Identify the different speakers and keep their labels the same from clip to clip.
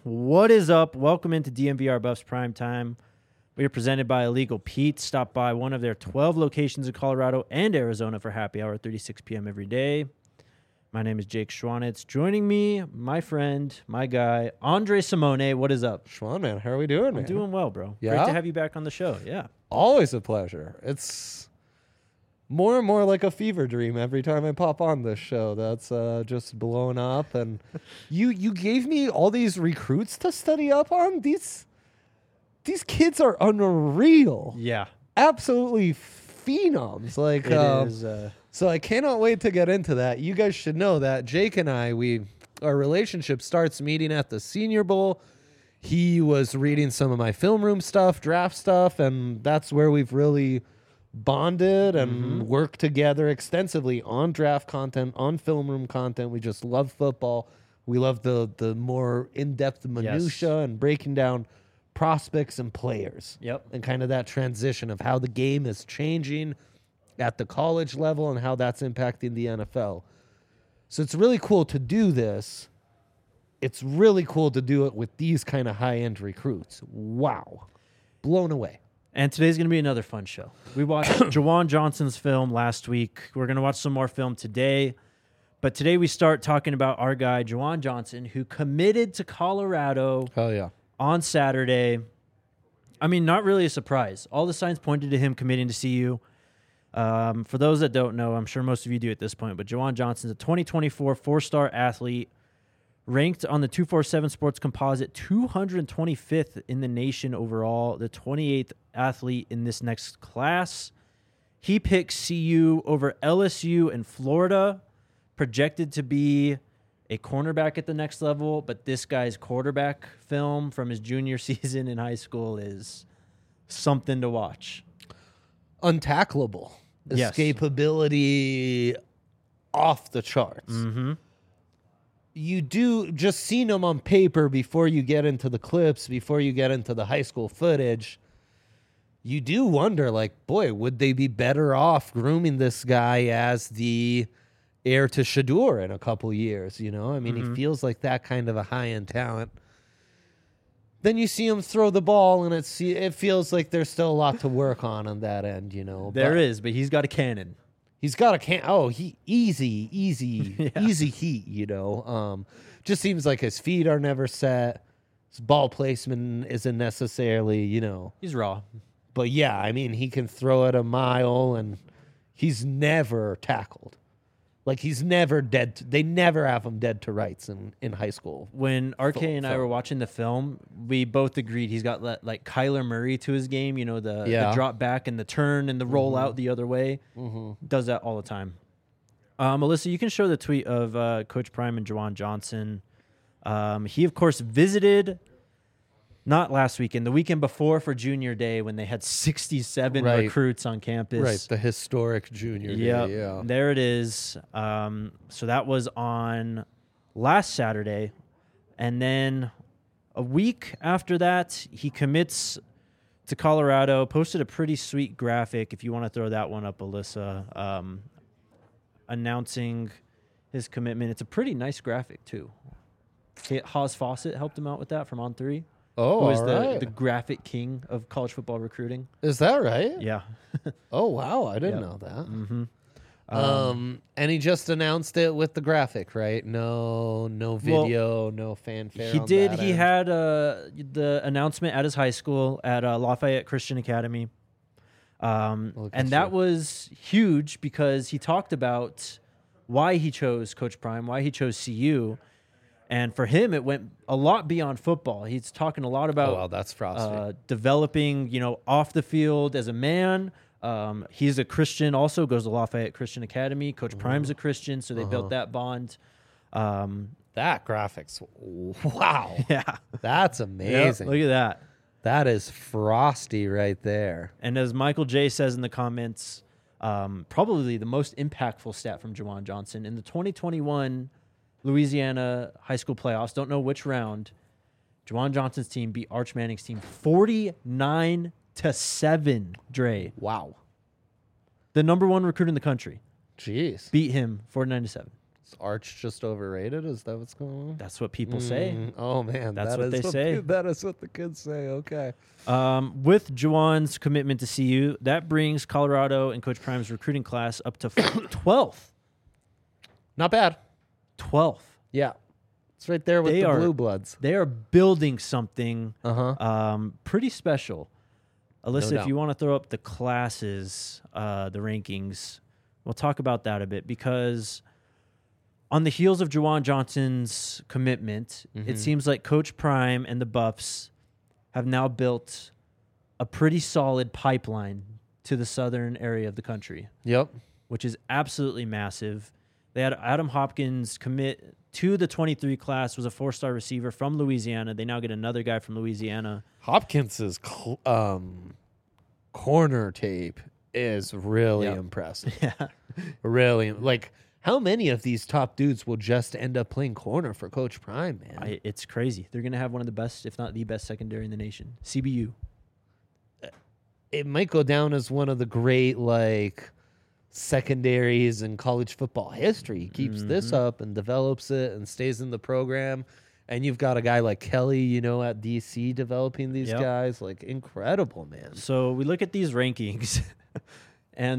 Speaker 1: What is up? Welcome into DMVR Buffs Prime Time. We are presented by Illegal Pete. Stop by one of their 12 locations in Colorado and Arizona for happy hour at 36 p.m. every day. My name is Jake Schwanitz. Joining me, my friend, my guy, Andre Simone. What is up?
Speaker 2: Schwan, man, how are we doing, man?
Speaker 1: I'm doing well, bro.
Speaker 2: Yeah?
Speaker 1: Great to have you back on the show. Yeah.
Speaker 2: Always a pleasure. It's more and more like a fever dream every time I pop on this show. That's just blown up. And you gave me all these recruits to study up on. These kids are unreal.
Speaker 1: Yeah.
Speaker 2: Absolutely phenoms. Like
Speaker 1: It is.
Speaker 2: So I cannot wait to get into that. You guys should know that Jake and I, our relationship starts meeting at the Senior Bowl. He was reading some of my film room stuff, draft stuff, and that's where we've really bonded and worked together extensively on draft content, on film room content. We just love football. We love the more in-depth minutia and breaking down prospects and players.
Speaker 1: Yep.
Speaker 2: And kind of that transition of how the game is changing at the college level and how that's impacting the NFL. So it's really cool to do this. It's really cool to do it with these kind of high-end recruits. Wow. Blown away.
Speaker 1: And today's going to be another fun show. We watched Juwan Johnson's film last week. We're going to watch some more film today. But today we start talking about our guy, Juwan Johnson, who committed to Colorado
Speaker 2: Hell yeah.
Speaker 1: on Saturday. I mean, not really a surprise. All the signs pointed to him committing to CU. For those that don't know, I'm sure most of you do at this point, but Juwan Johnson's a 2024 four-star athlete, ranked on the 247 Sports Composite 225th in the nation overall, the 28th athlete in this next class. He picks CU over LSU and Florida, projected to be a cornerback at the next level, but this guy's quarterback film from his junior season in high school is something to watch.
Speaker 2: Untackleable.
Speaker 1: Yes.
Speaker 2: Escapability off the charts.
Speaker 1: Mm-hmm.
Speaker 2: You do just seeing them on paper before you get into the clips, before you get into the high school footage. You do wonder, like, boy, would they be better off grooming this guy as the heir to Shedeur in a couple years? You know, I mean, he feels like that kind of a high-end talent. Then you see him throw the ball, and it feels like there's still a lot to work on that end, you know.
Speaker 1: There is, but he's got a cannon.
Speaker 2: He's got a easy
Speaker 1: Yeah.
Speaker 2: heat, you know. Just seems like his feet are never set. His ball placement isn't necessarily, you know.
Speaker 1: He's raw.
Speaker 2: But yeah, I mean, he can throw it a mile, and he's never tackled. Like, he's never dead. They never have him dead to rights in high school.
Speaker 1: When RK and I were watching the film, we both agreed he's got like Kyler Murray to his game. You know, the drop back and the turn and the roll out the other way. Does that all the time. Alyssa, you can show the tweet of Coach Prime and Juwan Johnson. He, of course, visited not last weekend, the weekend before for Junior Day when they had 67 recruits on campus.
Speaker 2: Right, the historic Junior Day, yeah.
Speaker 1: There it is. So that was on last Saturday. And then a week after that, he commits to Colorado, posted a pretty sweet graphic, if you want to throw that one up, Alyssa, announcing his commitment. It's a pretty nice graphic, too. Haas Fawcett helped him out with that from On3.
Speaker 2: Oh,
Speaker 1: who is
Speaker 2: all right.
Speaker 1: the graphic king of college football recruiting.
Speaker 2: Is that right?
Speaker 1: Yeah.
Speaker 2: Oh, wow. I didn't know that. And he just announced it with the graphic, right? No video, no fanfare.
Speaker 1: He
Speaker 2: on
Speaker 1: did.
Speaker 2: that
Speaker 1: He
Speaker 2: end.
Speaker 1: had the announcement at his high school at Lafayette Christian Academy. And that was huge because he talked about why he chose Coach Prime, why he chose CU. And for him, it went a lot beyond football. He's talking a lot about
Speaker 2: that's frosty.
Speaker 1: developing, you know, off the field as a man. He's a Christian, also goes to Lafayette Christian Academy. Coach Prime's a Christian, so they built that bond.
Speaker 2: That graphics, wow.
Speaker 1: Yeah.
Speaker 2: That's
Speaker 1: Yep,
Speaker 2: amazing.
Speaker 1: look at that.
Speaker 2: That is frosty right there.
Speaker 1: And as Michael J. says in the comments, probably the most impactful stat from Juwan Johnson in the 2021 Louisiana high school playoffs. Don't know which round. Juwan Johnson's team beat Arch Manning's team 49-7. Dre,
Speaker 2: Wow.
Speaker 1: the number one recruit in the country,
Speaker 2: Jeez.
Speaker 1: beat him 49-7.
Speaker 2: Is Arch just overrated? Is that what's going on?
Speaker 1: That's what people say.
Speaker 2: Oh man,
Speaker 1: That's what they say.
Speaker 2: That is what the kids say. Okay.
Speaker 1: With Juwan's commitment to CU, that brings Colorado and Coach Prime's recruiting class up to 12th.
Speaker 2: Not bad.
Speaker 1: 12th.
Speaker 2: Yeah, it's right there with the Blue Bloods.
Speaker 1: They are building something pretty special. Alyssa,
Speaker 2: No
Speaker 1: if
Speaker 2: doubt.
Speaker 1: you want to throw up the classes, the rankings, we'll talk about that a bit because on the heels of Juwan Johnson's commitment, it seems like Coach Prime and the Buffs have now built a pretty solid pipeline to the southern area of the country,
Speaker 2: Yep.
Speaker 1: which is absolutely massive. They had Adam Hopkins commit to the 23 class, was a 4-star receiver from Louisiana. They now get another guy from Louisiana.
Speaker 2: Hopkins's corner tape is really
Speaker 1: Yep.
Speaker 2: impressive.
Speaker 1: Yeah.
Speaker 2: Really, like how many of these top dudes will just end up playing corner for Coach Prime, man?
Speaker 1: It's crazy. They're going to have one of the best, if not the best secondary in the nation. CBU.
Speaker 2: It might go down as one of the great like secondaries in college football history. He keeps this up and develops it and stays in the program. And you've got a guy like Kelly, you know, at DC developing these
Speaker 1: Yep.
Speaker 2: guys. Like incredible, man.
Speaker 1: So we look at these rankings, and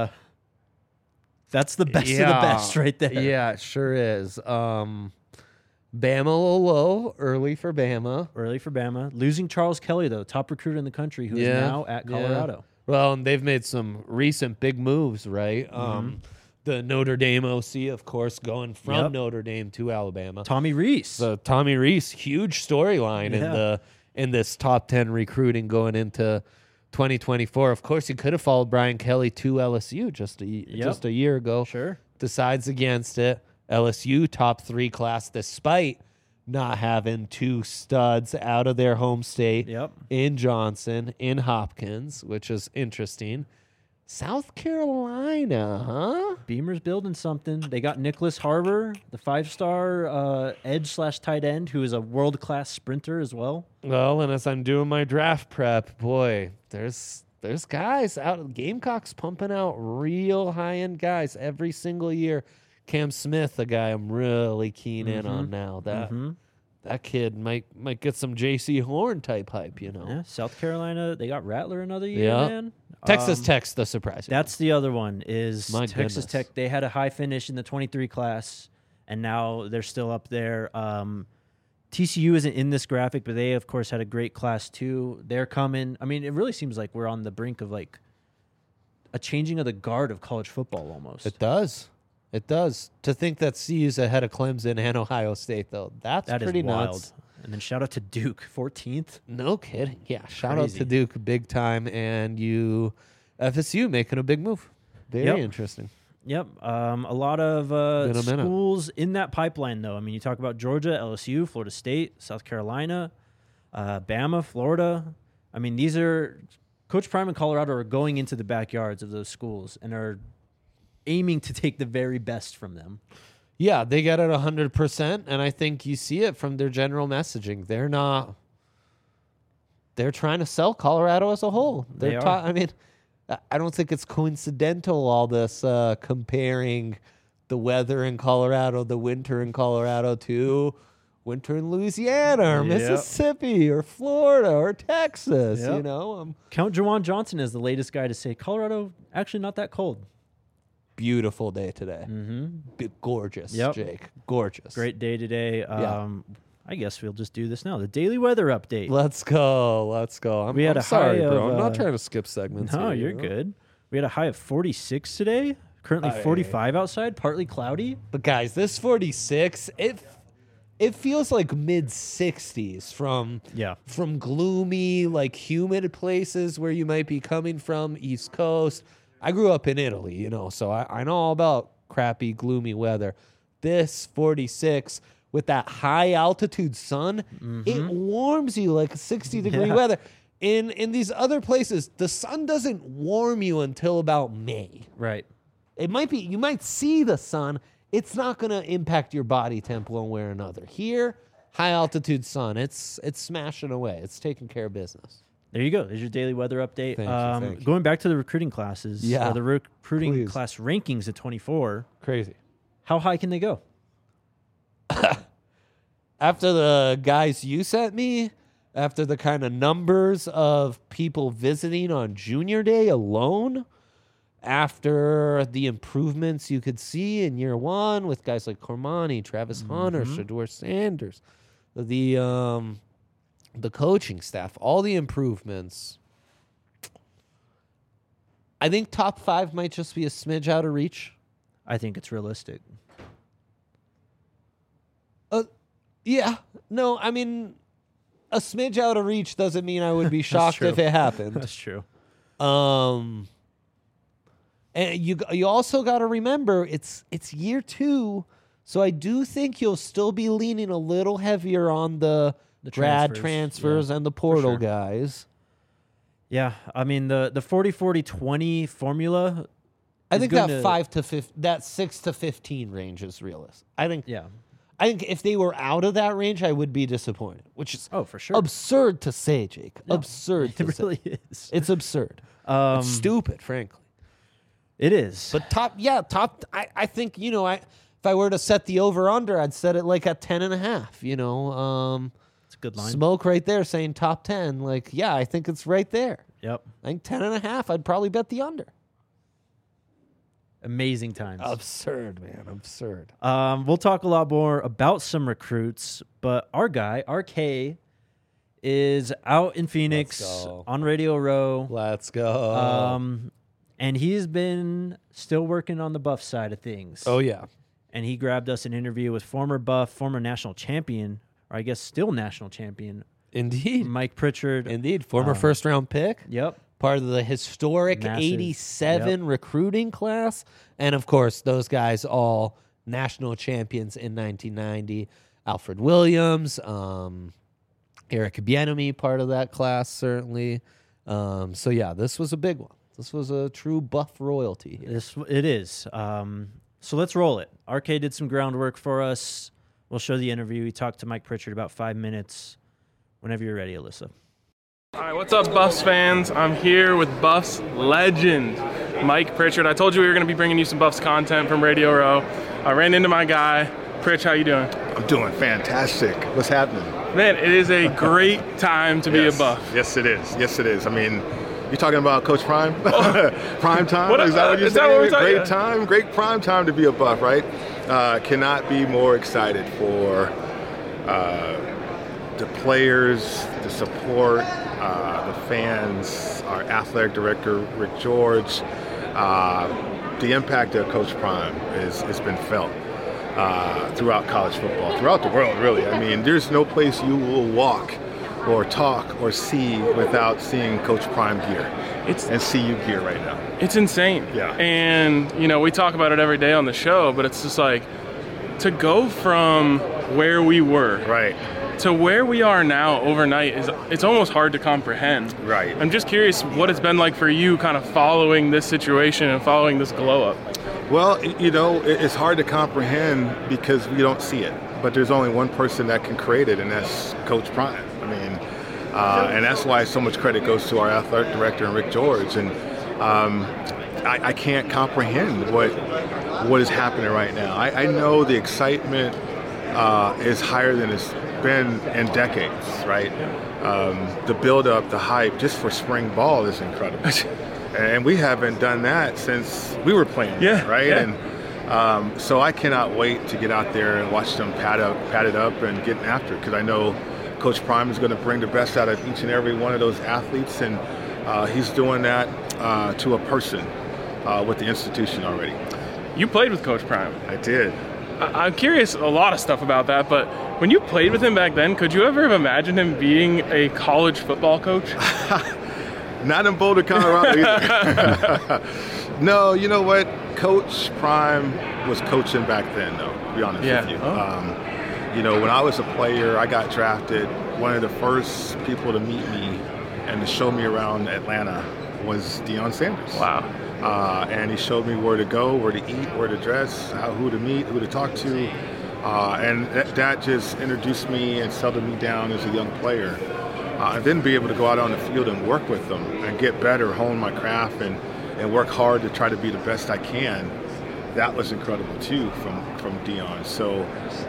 Speaker 1: that's the best of the best right there.
Speaker 2: Yeah, it sure is. Bama a little low, early for Bama.
Speaker 1: Early for Bama. Losing Charles Kelly, though, top recruiter in the country, who is now at Colorado.
Speaker 2: Well, and they've made some recent big moves, right? The Notre Dame OC, of course, going from
Speaker 1: Yep.
Speaker 2: Notre Dame to Alabama.
Speaker 1: Tommy Reese.
Speaker 2: So Tommy Reese, huge storyline in this top 10 recruiting going into 2024. Of course, he could have followed Brian Kelly to LSU just a year ago.
Speaker 1: Sure.
Speaker 2: Decides against it. LSU top 3 class, despite not having 2 studs out of their home state
Speaker 1: Yep.
Speaker 2: in Johnson, in Hopkins, which is interesting. South Carolina, huh?
Speaker 1: Beamer's building something. They got Nicholas Harbor, the 5-star edge/tight end, who is a world-class sprinter as well.
Speaker 2: Well, and as I'm doing my draft prep, boy, there's guys out. Gamecocks pumping out real high-end guys every single year. Cam Smith, a guy I'm really keen in on now. That kid might get some J.C. Horn type hype, you know.
Speaker 1: Yeah, South Carolina, they got Rattler another year,
Speaker 2: Yeah.
Speaker 1: man.
Speaker 2: Texas Tech's the surprise.
Speaker 1: That's the other one is
Speaker 2: My
Speaker 1: Texas
Speaker 2: goodness.
Speaker 1: Tech. They had a high finish in the 23 class, and now they're still up there. TCU isn't in this graphic, but they, of course, had a great class too. They're coming. I mean, it really seems like we're on the brink of like a changing of the guard of college football almost.
Speaker 2: It does. It does. To think that CU's ahead of Clemson and Ohio State, though, that's
Speaker 1: That is
Speaker 2: pretty
Speaker 1: wild.
Speaker 2: nuts.
Speaker 1: And then shout out to Duke, 14th.
Speaker 2: No kidding. Yeah, shout out
Speaker 1: Crazy.
Speaker 2: to Duke big time, and FSU making a big move. Very
Speaker 1: Yep.
Speaker 2: interesting.
Speaker 1: Yep. A lot of
Speaker 2: Been a minute.
Speaker 1: schools in that pipeline, though. I mean, you talk about Georgia, LSU, Florida State, South Carolina, Bama, Florida. I mean, these are Coach Prime and Colorado are going into the backyards of those schools and are aiming to take the very best from them.
Speaker 2: Yeah, they get it 100%, and I think you see it from their general messaging. They're trying to sell Colorado as a whole.
Speaker 1: They are.
Speaker 2: I mean, I don't think it's coincidental, all this comparing the weather in Colorado, the winter in Colorado, to winter in Louisiana or
Speaker 1: Yep.
Speaker 2: Mississippi or Florida or Texas,
Speaker 1: Yep.
Speaker 2: you know?
Speaker 1: Count Juwan Johnson as the latest guy to say Colorado actually not that cold.
Speaker 2: Beautiful day today. Gorgeous,
Speaker 1: Yep.
Speaker 2: Jake. Gorgeous.
Speaker 1: Great day today.
Speaker 2: Yeah.
Speaker 1: I guess we'll just do this now. The daily weather update.
Speaker 2: Let's go.
Speaker 1: We had
Speaker 2: I'm
Speaker 1: a
Speaker 2: sorry,
Speaker 1: high
Speaker 2: bro.
Speaker 1: of,
Speaker 2: I'm not trying to skip segments.
Speaker 1: No,
Speaker 2: here,
Speaker 1: you're
Speaker 2: you know?
Speaker 1: good. We had a high of 46 today. Currently
Speaker 2: Aye.
Speaker 1: 45 outside, partly cloudy.
Speaker 2: But guys, this 46, it feels like mid 60s from gloomy, like humid places where you might be coming from, East Coast. I grew up in Italy, you know, so I know all about crappy, gloomy weather. This 46 with that high altitude sun, it warms you like 60-degree
Speaker 1: Yeah.
Speaker 2: weather. In these other places, the sun doesn't warm you until about May.
Speaker 1: Right.
Speaker 2: It might be, you might see the sun. It's not going to impact your body temp one way or another. Here, high altitude sun, it's smashing away. It's taking care of business.
Speaker 1: There you go. There's your daily weather update.
Speaker 2: Thank you.
Speaker 1: Going back to the recruiting classes.
Speaker 2: Yeah,
Speaker 1: The recruiting
Speaker 2: please.
Speaker 1: class rankings at 24.
Speaker 2: Crazy.
Speaker 1: How high can they go?
Speaker 2: After the guys you sent me, after the kind of numbers of people visiting on Junior Day alone, after the improvements you could see in year one with guys like Cormani, Travis Hunter, Shedeur Sanders, the coaching staff, all the improvements, I think top 5 might just be a smidge out of reach.
Speaker 1: I think it's realistic.
Speaker 2: Yeah. No, I mean, a smidge out of reach doesn't mean I would be shocked if it happened.
Speaker 1: That's true.
Speaker 2: And you also got to remember it's year 2, so I do think you'll still be leaning a little heavier on the grad transfers and the portal guys.
Speaker 1: Yeah, I mean the 40-40-20 formula.
Speaker 2: I think that 6 to 15 range is realistic. I think if they were out of that range, I would be disappointed, which is
Speaker 1: for sure
Speaker 2: absurd to say, Jake. No, absurd.
Speaker 1: It really is.
Speaker 2: It's absurd. It's stupid, frankly.
Speaker 1: It is.
Speaker 2: But top. I think if I were to set the over under, I'd set it like at 10.5.
Speaker 1: It's a good line.
Speaker 2: Smoke right there saying top 10. Like, yeah, I think it's right there.
Speaker 1: Yep.
Speaker 2: I think 10.5. I'd probably bet the under.
Speaker 1: Amazing times.
Speaker 2: Absurd, man. Absurd.
Speaker 1: We'll talk a lot more about some recruits, but our guy, RK, is out in Phoenix on Radio Row.
Speaker 2: Let's go.
Speaker 1: And he's been still working on the Buff side of things.
Speaker 2: Oh, yeah.
Speaker 1: And he grabbed us an interview with former Buff, former national champion, or I guess still national champion.
Speaker 2: Indeed.
Speaker 1: Mike Pritchard.
Speaker 2: Indeed. Former first-round pick.
Speaker 1: Yep.
Speaker 2: Part of the historic 87 recruiting class. And, of course, those guys all national champions in 1990. Alfred Williams, Eric Bieniemy, part of that class, certainly. So, yeah, this was a big one. This was a true Buff royalty here.
Speaker 1: It is. So let's roll it. RK did some groundwork for us. We'll show the interview. We talked to Mike Pritchard about 5 minutes. Whenever you're ready, Alyssa.
Speaker 3: All right, what's up, Buffs fans? I'm here with Buffs legend, Mike Pritchard. I told you we were going to be bringing you some Buffs content from Radio Row. I ran into my guy. Pritch, how you doing?
Speaker 4: I'm doing fantastic. What's happening?
Speaker 3: Man, it is a great time to be a Buff.
Speaker 4: Yes, it is. Yes, it is. I mean, you're talking about Coach Prime? Prime time? Is that what you're saying? Great time, great prime time to be a Buff, right? Cannot be more excited for the players, the support, the fans, our athletic director, Rick George. The impact of Coach Prime has been felt throughout college football, throughout the world, really. I mean, there's no place you will walk or talk or see without seeing Coach Prime gear and CU gear right now.
Speaker 3: It's insane.
Speaker 4: Yeah.
Speaker 3: And, we talk about it every day on the show, but it's just like to go from where we were to where we are now overnight it's almost hard to comprehend.
Speaker 4: Right.
Speaker 3: I'm just curious what it's been like for you kind of following this situation and following this glow up.
Speaker 4: Well, it's hard to comprehend because we don't see it. But there's only one person that can create it, and that's Coach Prime. I mean, and that's why so much credit goes to our athletic director and Rick George. And I can't comprehend what is happening right now. I know the excitement is higher than it's been in decades, right? The build-up, the hype, just for spring ball is incredible. And we haven't done that since we were playing, right?
Speaker 3: Yeah.
Speaker 4: And so I cannot wait to get out there and watch them pat it up and get after it, because I know Coach Prime is going to bring the best out of each and every one of those athletes, and he's doing that to a person with the institution already.
Speaker 3: You played with Coach Prime.
Speaker 4: I did.
Speaker 3: I'm curious a lot of stuff about that, but when you played with him back then, could you ever have imagined him being a college football coach?
Speaker 4: Not in Boulder, Colorado either. No, you know what? Coach Prime was coaching back then, though, to be honest with you.
Speaker 3: Oh.
Speaker 4: When I was a player, I got drafted. One of the first people to meet me and to show me around Atlanta was Deion Sanders.
Speaker 3: Wow.
Speaker 4: And he showed me where to go, where to eat, where to dress, who to meet, who to talk to. And that just introduced me and settled me down as a young player. And then be able to go out on the field and work with them and get better, hone my craft, and work hard to try to be the best I can. that was incredible too from Deion. So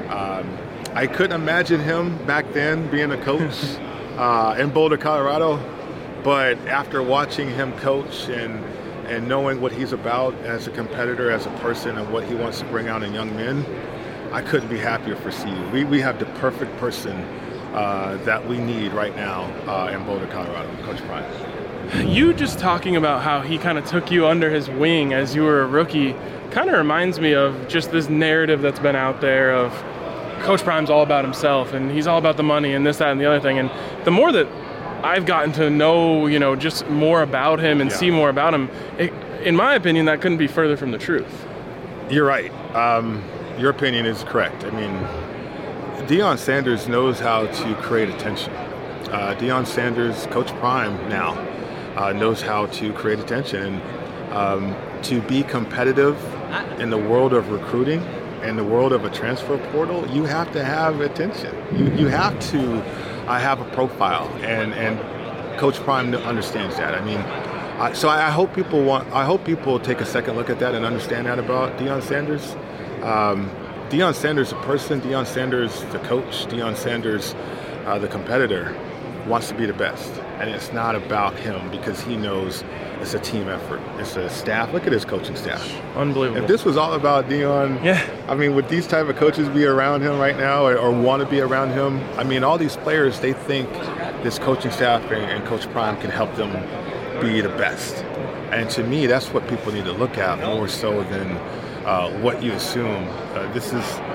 Speaker 4: I couldn't imagine him back then being a coach in Boulder, Colorado. But after watching him coach and knowing what he's about as a competitor, as a person, and what he wants to bring out in young men, I couldn't be happier for CU. We have the perfect person that we need right now in Boulder, Colorado, Coach Prime.
Speaker 3: You just talking about how he kind of took you under his wing as you were a rookie kind of reminds me of just this narrative that's been out there of Coach Prime's all about himself and he's all about the money and this, that, and the other thing. And the more that I've gotten to know, just more about him and see more about him, in my opinion, that couldn't be further from the truth.
Speaker 4: You're right. Your opinion is correct. I mean, Deion Sanders knows how to create attention. Deion Sanders, Coach Prime now, knows how to create attention. And to be competitive in the world of recruiting, in the world of a transfer portal, you have to have attention. You have to have a profile, and Coach Prime understands that. I mean, so I hope people take a second look at that and understand that about Deion Sanders. Deion Sanders, the person, Deion Sanders, the coach, Deion Sanders, the competitor, wants to be the best. And it's not about him because he knows it's a team effort. It's a staff. Look at his coaching staff.
Speaker 3: Unbelievable.
Speaker 4: If this was all about Deion, I mean, would these type of coaches be around him right now or want to be around him? I mean, all these players, they think this coaching staff and Coach Prime can help them be the best. And to me, that's what people need to look at more so than what you assume. This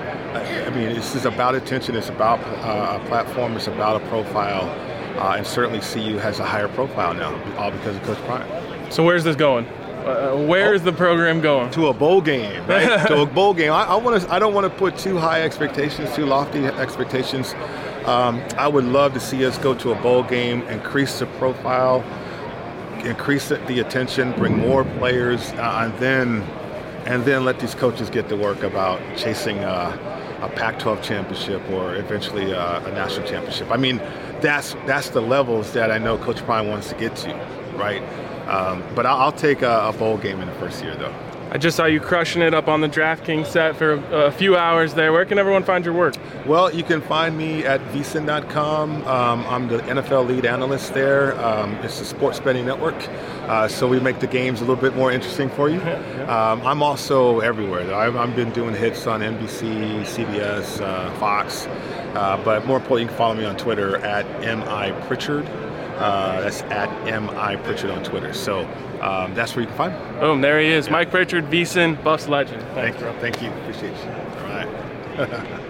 Speaker 4: is about attention. It's about a platform. It's about a profile. And certainly CU has a higher profile now, all because of Coach Prime.
Speaker 3: So where's this going? Where is the program going?
Speaker 4: To a bowl game, right? To a bowl game. I don't want to put too high expectations, too lofty expectations. I would love to see us go to a bowl game, increase the profile, increase the attention, bring more players, and then let these coaches get to work about chasing a Pac-12 championship or eventually a national championship. I mean, that's the levels that I know Coach Prime wants to get to, right? But I'll take a bowl game in the first year, though.
Speaker 3: I just saw you crushing it up on the DraftKings set for a few hours there. Where can everyone find your work?
Speaker 4: Well, you can find me at vsin.com. I'm the NFL lead analyst there. It's a sports betting network, so we make the games a little bit more interesting for you. I'm also everywhere. I've been doing hits on NBC, CBS, Fox, but more importantly, you can follow me on Twitter at MIPritchard. That's at MIPritchard on Twitter. So that's where you can find me.
Speaker 3: Boom, there he is. Yeah. Mike Pritchard, VSiN, Buffs legend. Thanks, bro.
Speaker 4: Thank you. Appreciate you. All right.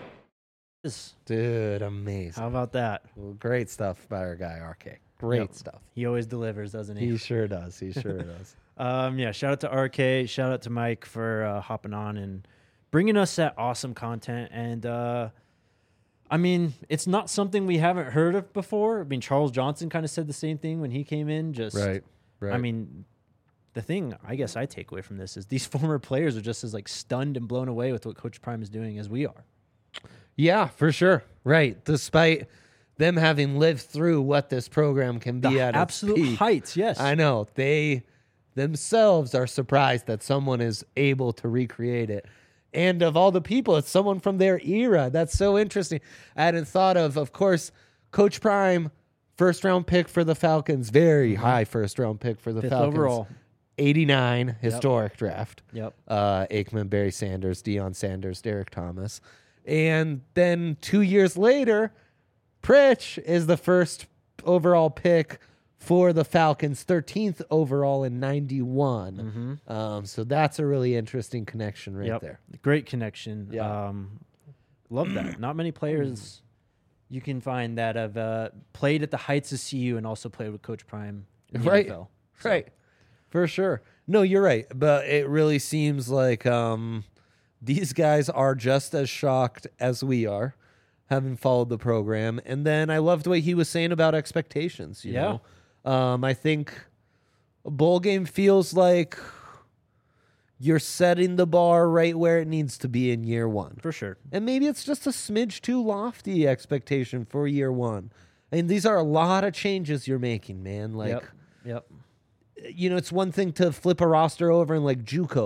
Speaker 2: Dude, amazing.
Speaker 1: How about that?
Speaker 2: Well, great stuff by our guy, RK. Great stuff.
Speaker 1: He always delivers, doesn't he?
Speaker 2: He sure does. He sure does.
Speaker 1: Shout out to RK. Shout out to Mike for hopping on and bringing us that awesome content. And, I mean, it's not something we haven't heard of before. I mean, Charles Johnson kind of said the same thing when he came in. Just
Speaker 2: right.
Speaker 1: I mean, the thing I guess I take away from this is these former players are just as like stunned and blown away with what Coach Prime is doing as we are.
Speaker 2: Yeah, for sure. Right. Despite them having lived through what this program can be at
Speaker 1: absolute
Speaker 2: its peak,
Speaker 1: heights. Yes,
Speaker 2: I know they themselves are surprised that someone is able to recreate it. And of all the people, it's someone from their era. That's so interesting. I hadn't thought of course, Coach Prime, first-round pick for the Falcons, very high first-round pick for the
Speaker 1: Fifth
Speaker 2: Falcons.
Speaker 1: overall.
Speaker 2: 89, historic draft.
Speaker 1: Yep.
Speaker 2: Aikman, Barry Sanders, Deion Sanders, Derek Thomas. And then 2 years later, Pritch is the first overall pick for the Falcons, 13th overall in 91. So that's a really interesting connection right there.
Speaker 1: Great connection.
Speaker 2: Yeah.
Speaker 1: Love that. Not many players you can find that have played at the heights of CU and also played with Coach Prime in the NFL. So.
Speaker 2: Right. For sure. No, you're right. But it really seems like these guys are just as shocked as we are, having followed the program. And then I loved what he was saying about expectations. You know? I think a bowl game feels like you're setting the bar right where it needs to be in year one.
Speaker 1: For sure.
Speaker 2: And maybe it's just a smidge too lofty expectation for year one. I mean, these are a lot of changes you're making, man. Like,
Speaker 1: Yep.
Speaker 2: you know, it's one thing to flip a roster over in like JUCO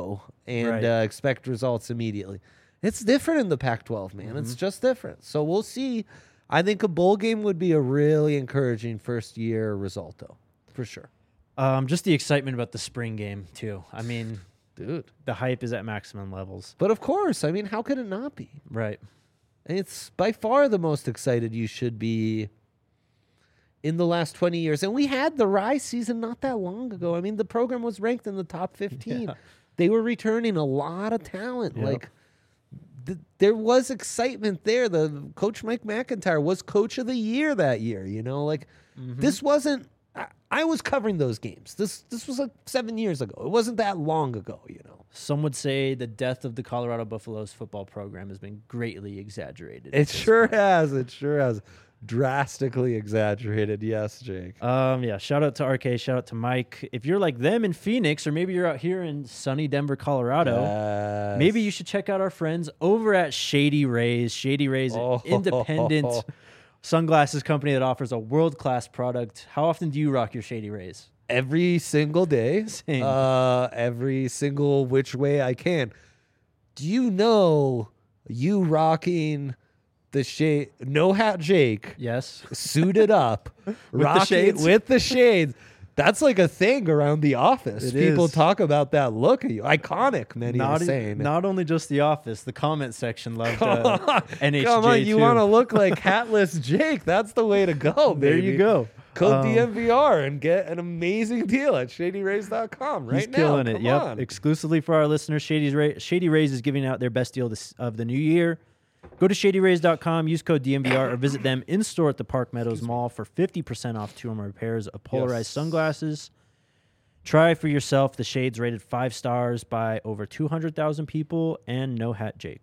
Speaker 2: and
Speaker 1: Right.
Speaker 2: expect results immediately. It's different in the Pac-12, man. It's just different. So we'll see. I think a bowl game would be a really encouraging first-year result, though, for sure.
Speaker 1: Just the excitement about the spring game too. I mean,
Speaker 2: Dude.
Speaker 1: the hype is at maximum levels.
Speaker 2: But of course, I mean, how could it not be?
Speaker 1: Right.
Speaker 2: And it's by far the most excited you should be in the last 20 years. And we had the Rise season not that long ago. I mean, the program was ranked in the top 15.
Speaker 1: Yeah.
Speaker 2: They were returning a lot of talent.
Speaker 1: Yep.
Speaker 2: Like, there was excitement there. The Coach Mike McIntyre was Coach of the Year that year. You know, like this wasn't. I was covering those games. This was like 7 years ago. It wasn't that long ago. You know,
Speaker 1: Some would say the death of the Colorado Buffaloes football program has been greatly exaggerated.
Speaker 2: it sure has. It sure has. Drastically exaggerated. Yes, Jake.
Speaker 1: Yeah. Shout out to RK. Shout out to Mike. If you're like them in Phoenix, or maybe you're out here in sunny Denver, Colorado, maybe you should check out our friends over at Shady Rays. Shady Rays, an independent sunglasses company that offers a world-class product. How often do you rock your Shady Rays?
Speaker 2: Every single day.
Speaker 1: Same.
Speaker 2: Every single which way I can. Do you know you rocking the shade, no hat Jake,
Speaker 1: Yes.
Speaker 2: suited up,
Speaker 1: the
Speaker 2: rocking
Speaker 1: shades?
Speaker 2: with the shades? That's like a thing around the office.
Speaker 1: It
Speaker 2: People
Speaker 1: is.
Speaker 2: talk about that look of you. Iconic, many are saying.
Speaker 1: Not only just the office, the comment section loved NHJ
Speaker 2: Come on, you
Speaker 1: too.
Speaker 2: want to look like hatless Jake. That's the way to go,
Speaker 1: There
Speaker 2: baby.
Speaker 1: you go.
Speaker 2: Code DMVR and get an amazing deal at shadyrays.com right
Speaker 1: He's
Speaker 2: now.
Speaker 1: killing it.
Speaker 2: Come
Speaker 1: Yep.
Speaker 2: on.
Speaker 1: Exclusively for our listeners, Shady Rays is giving out their best deal of the new year. Go to shadyrays.com, use code DMVR, or visit them in store at the Park Meadows Mall for 50% off 2 or more pairs of polarized sunglasses. Try for yourself the shades rated 5 stars by over 200,000 people and No Hat Jake.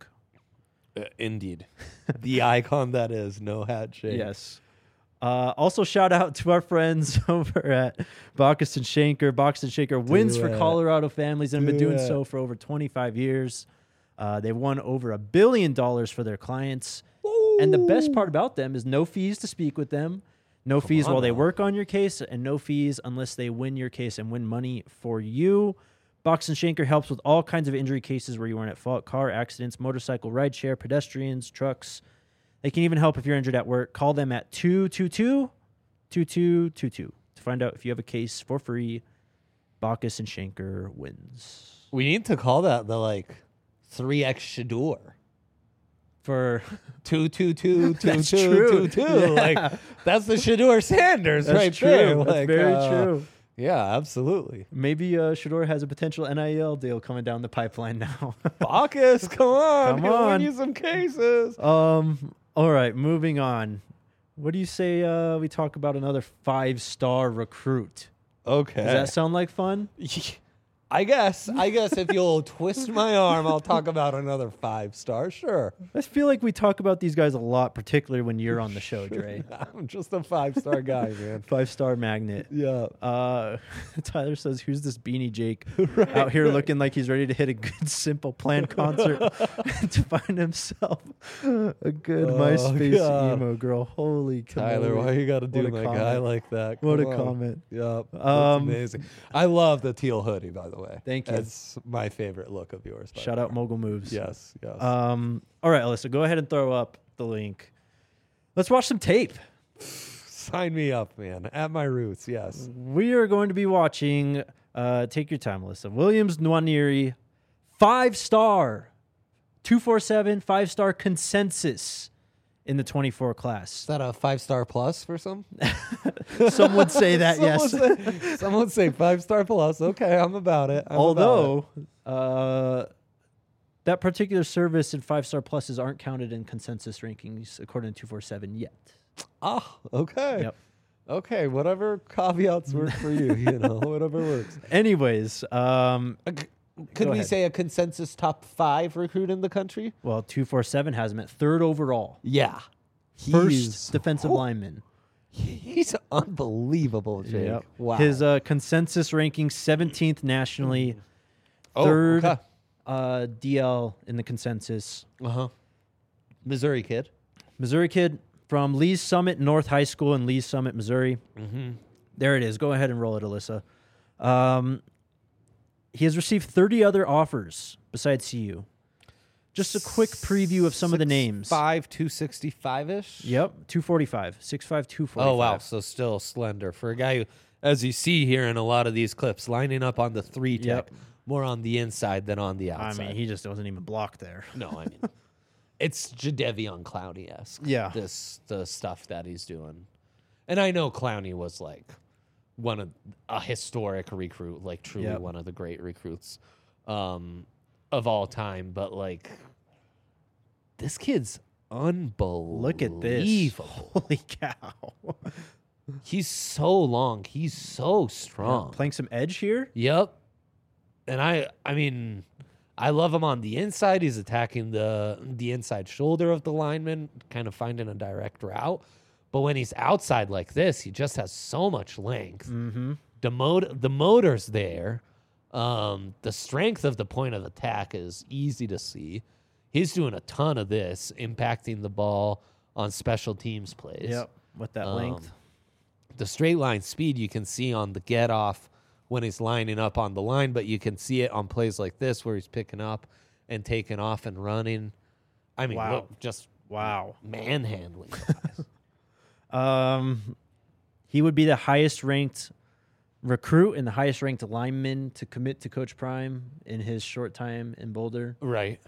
Speaker 2: Indeed. The icon that is No Hat Jake.
Speaker 1: Yes. Also, shout out to our friends over at Bacchus and Schenker. Bacchus and Schenker wins for
Speaker 2: it.
Speaker 1: Colorado families and have been
Speaker 2: Do
Speaker 1: doing
Speaker 2: it.
Speaker 1: so for over 25 years. They've won over $1 billion for their clients. And the best part about them is no fees to speak with them, no fees
Speaker 2: on
Speaker 1: while they
Speaker 2: now.
Speaker 1: work on your case, and no fees unless they win your case and win money for you. Bacchus and Schenker helps with all kinds of injury cases where you weren't at fault: car accidents, motorcycle rideshare, pedestrians, trucks. They can even help if you're injured at work. Call them at 222-2222 to find out if you have a case for free. Bacchus and Schenker wins.
Speaker 2: We need to call that the 3X Shador.
Speaker 1: For
Speaker 2: 2222222.
Speaker 1: Yeah.
Speaker 2: Like that's the Shador Sanders right
Speaker 1: true.
Speaker 2: there.
Speaker 1: That's
Speaker 2: Like,
Speaker 1: very true.
Speaker 2: Yeah, absolutely.
Speaker 1: Maybe Shador has a potential NIL deal coming down the pipeline now.
Speaker 2: Bacchus, come on.
Speaker 1: Come
Speaker 2: He'll
Speaker 1: on.
Speaker 2: win you some cases.
Speaker 1: All right, moving on. What do you say we talk about another 5-star recruit?
Speaker 2: Okay.
Speaker 1: Does that sound like fun?
Speaker 2: I guess if you'll twist my arm, I'll talk about another 5-star. Sure.
Speaker 1: I feel like we talk about these guys a lot, particularly when you're on the show, Dre.
Speaker 2: I'm just a 5-star guy, man.
Speaker 1: 5-star magnet.
Speaker 2: Yeah.
Speaker 1: Tyler says, "Who's this beanie Jake out here looking like he's ready to hit a good Simple Plan concert to find himself a good MySpace
Speaker 2: God.
Speaker 1: emo girl?" Holy
Speaker 2: Tyler,
Speaker 1: cannoli.
Speaker 2: why you got to do
Speaker 1: What a
Speaker 2: my
Speaker 1: comment.
Speaker 2: guy like that?
Speaker 1: What a
Speaker 2: Come on.
Speaker 1: comment.
Speaker 2: Yep. That's
Speaker 1: Um,
Speaker 2: amazing. I love the teal hoodie, by the way.
Speaker 1: Thank you.
Speaker 2: It's my favorite look of yours. by
Speaker 1: Shout
Speaker 2: far.
Speaker 1: out Mogul Moves.
Speaker 2: Yes, yes.
Speaker 1: All right, Alyssa, go ahead and throw up the link. Let's watch some tape.
Speaker 2: Sign me up, man. At my roots, yes.
Speaker 1: We are going to be watching, take your time, Alyssa, Williams Nwaneri, 5-star, 247, 5-star consensus in the 24
Speaker 2: Is
Speaker 1: class.
Speaker 2: that a 5-star plus for some?
Speaker 1: Some would say that, yes.
Speaker 2: Some would say 5-star plus. Okay, I'm about it. I'm about
Speaker 1: Although, that particular service and 5-star pluses aren't counted in consensus rankings according to 247 yet.
Speaker 2: it. Okay.
Speaker 1: Yep.
Speaker 2: Okay, whatever caveats work for you, whatever works.
Speaker 1: Anyways,
Speaker 2: Could
Speaker 1: Go
Speaker 2: we
Speaker 1: ahead.
Speaker 2: say a consensus top 5 recruit in the country?
Speaker 1: well, 247 has him at 3rd overall.
Speaker 2: Yeah.
Speaker 1: First defensive lineman.
Speaker 2: He's unbelievable, Jake.
Speaker 1: Yep.
Speaker 2: Wow.
Speaker 1: His consensus ranking 17th nationally,
Speaker 2: Oh,
Speaker 1: 3rd
Speaker 2: okay.
Speaker 1: DL in the consensus.
Speaker 2: Uh-huh. Missouri kid.
Speaker 1: Missouri kid from Lee's Summit North High School in Lee's Summit, Missouri.
Speaker 2: Mm-hmm.
Speaker 1: There it is. Go ahead and roll it, Alyssa. he has received 30 other offers besides CU. Just a quick preview of some of the names.
Speaker 2: 5', 265-ish?
Speaker 1: Yep, 245, 6'5", 245.
Speaker 2: Oh, wow. So still slender. For a guy who, as you see here in a lot of these clips, lining up on the 3 tech,
Speaker 1: Yep.
Speaker 2: more on the inside than on the
Speaker 1: I
Speaker 2: outside.
Speaker 1: mean, he just wasn't even blocked there.
Speaker 2: No, I mean, it's Jadeveon Clowney-esque.
Speaker 1: Yeah.
Speaker 2: The stuff that he's doing. And I know Clowney was like a historic recruit, like truly
Speaker 1: Yep.
Speaker 2: one of the great recruits of all time. But like, this kid's unbelievable.
Speaker 1: Look at this. Holy cow.
Speaker 2: He's so long. He's so strong.
Speaker 1: Playing some edge here.
Speaker 2: Yep. And I mean, I love him on the inside. He's attacking the inside shoulder of the lineman, kind of finding a direct route. But when he's outside like this, he just has so much length.
Speaker 1: Mm-hmm.
Speaker 2: The motor's there. The strength of the point of attack is easy to see. He's doing a ton of this, impacting the ball on special teams plays.
Speaker 1: Yep, with that length.
Speaker 2: The straight line speed you can see on the get off when he's lining up on the line, but you can see it on plays like this where he's picking up and taking off and running. I mean,
Speaker 1: Wow.
Speaker 2: look, just
Speaker 1: Wow.
Speaker 2: manhandling guys.
Speaker 1: He would be the highest ranked recruit and the highest ranked lineman to commit to Coach Prime in his short time in Boulder.
Speaker 2: Right.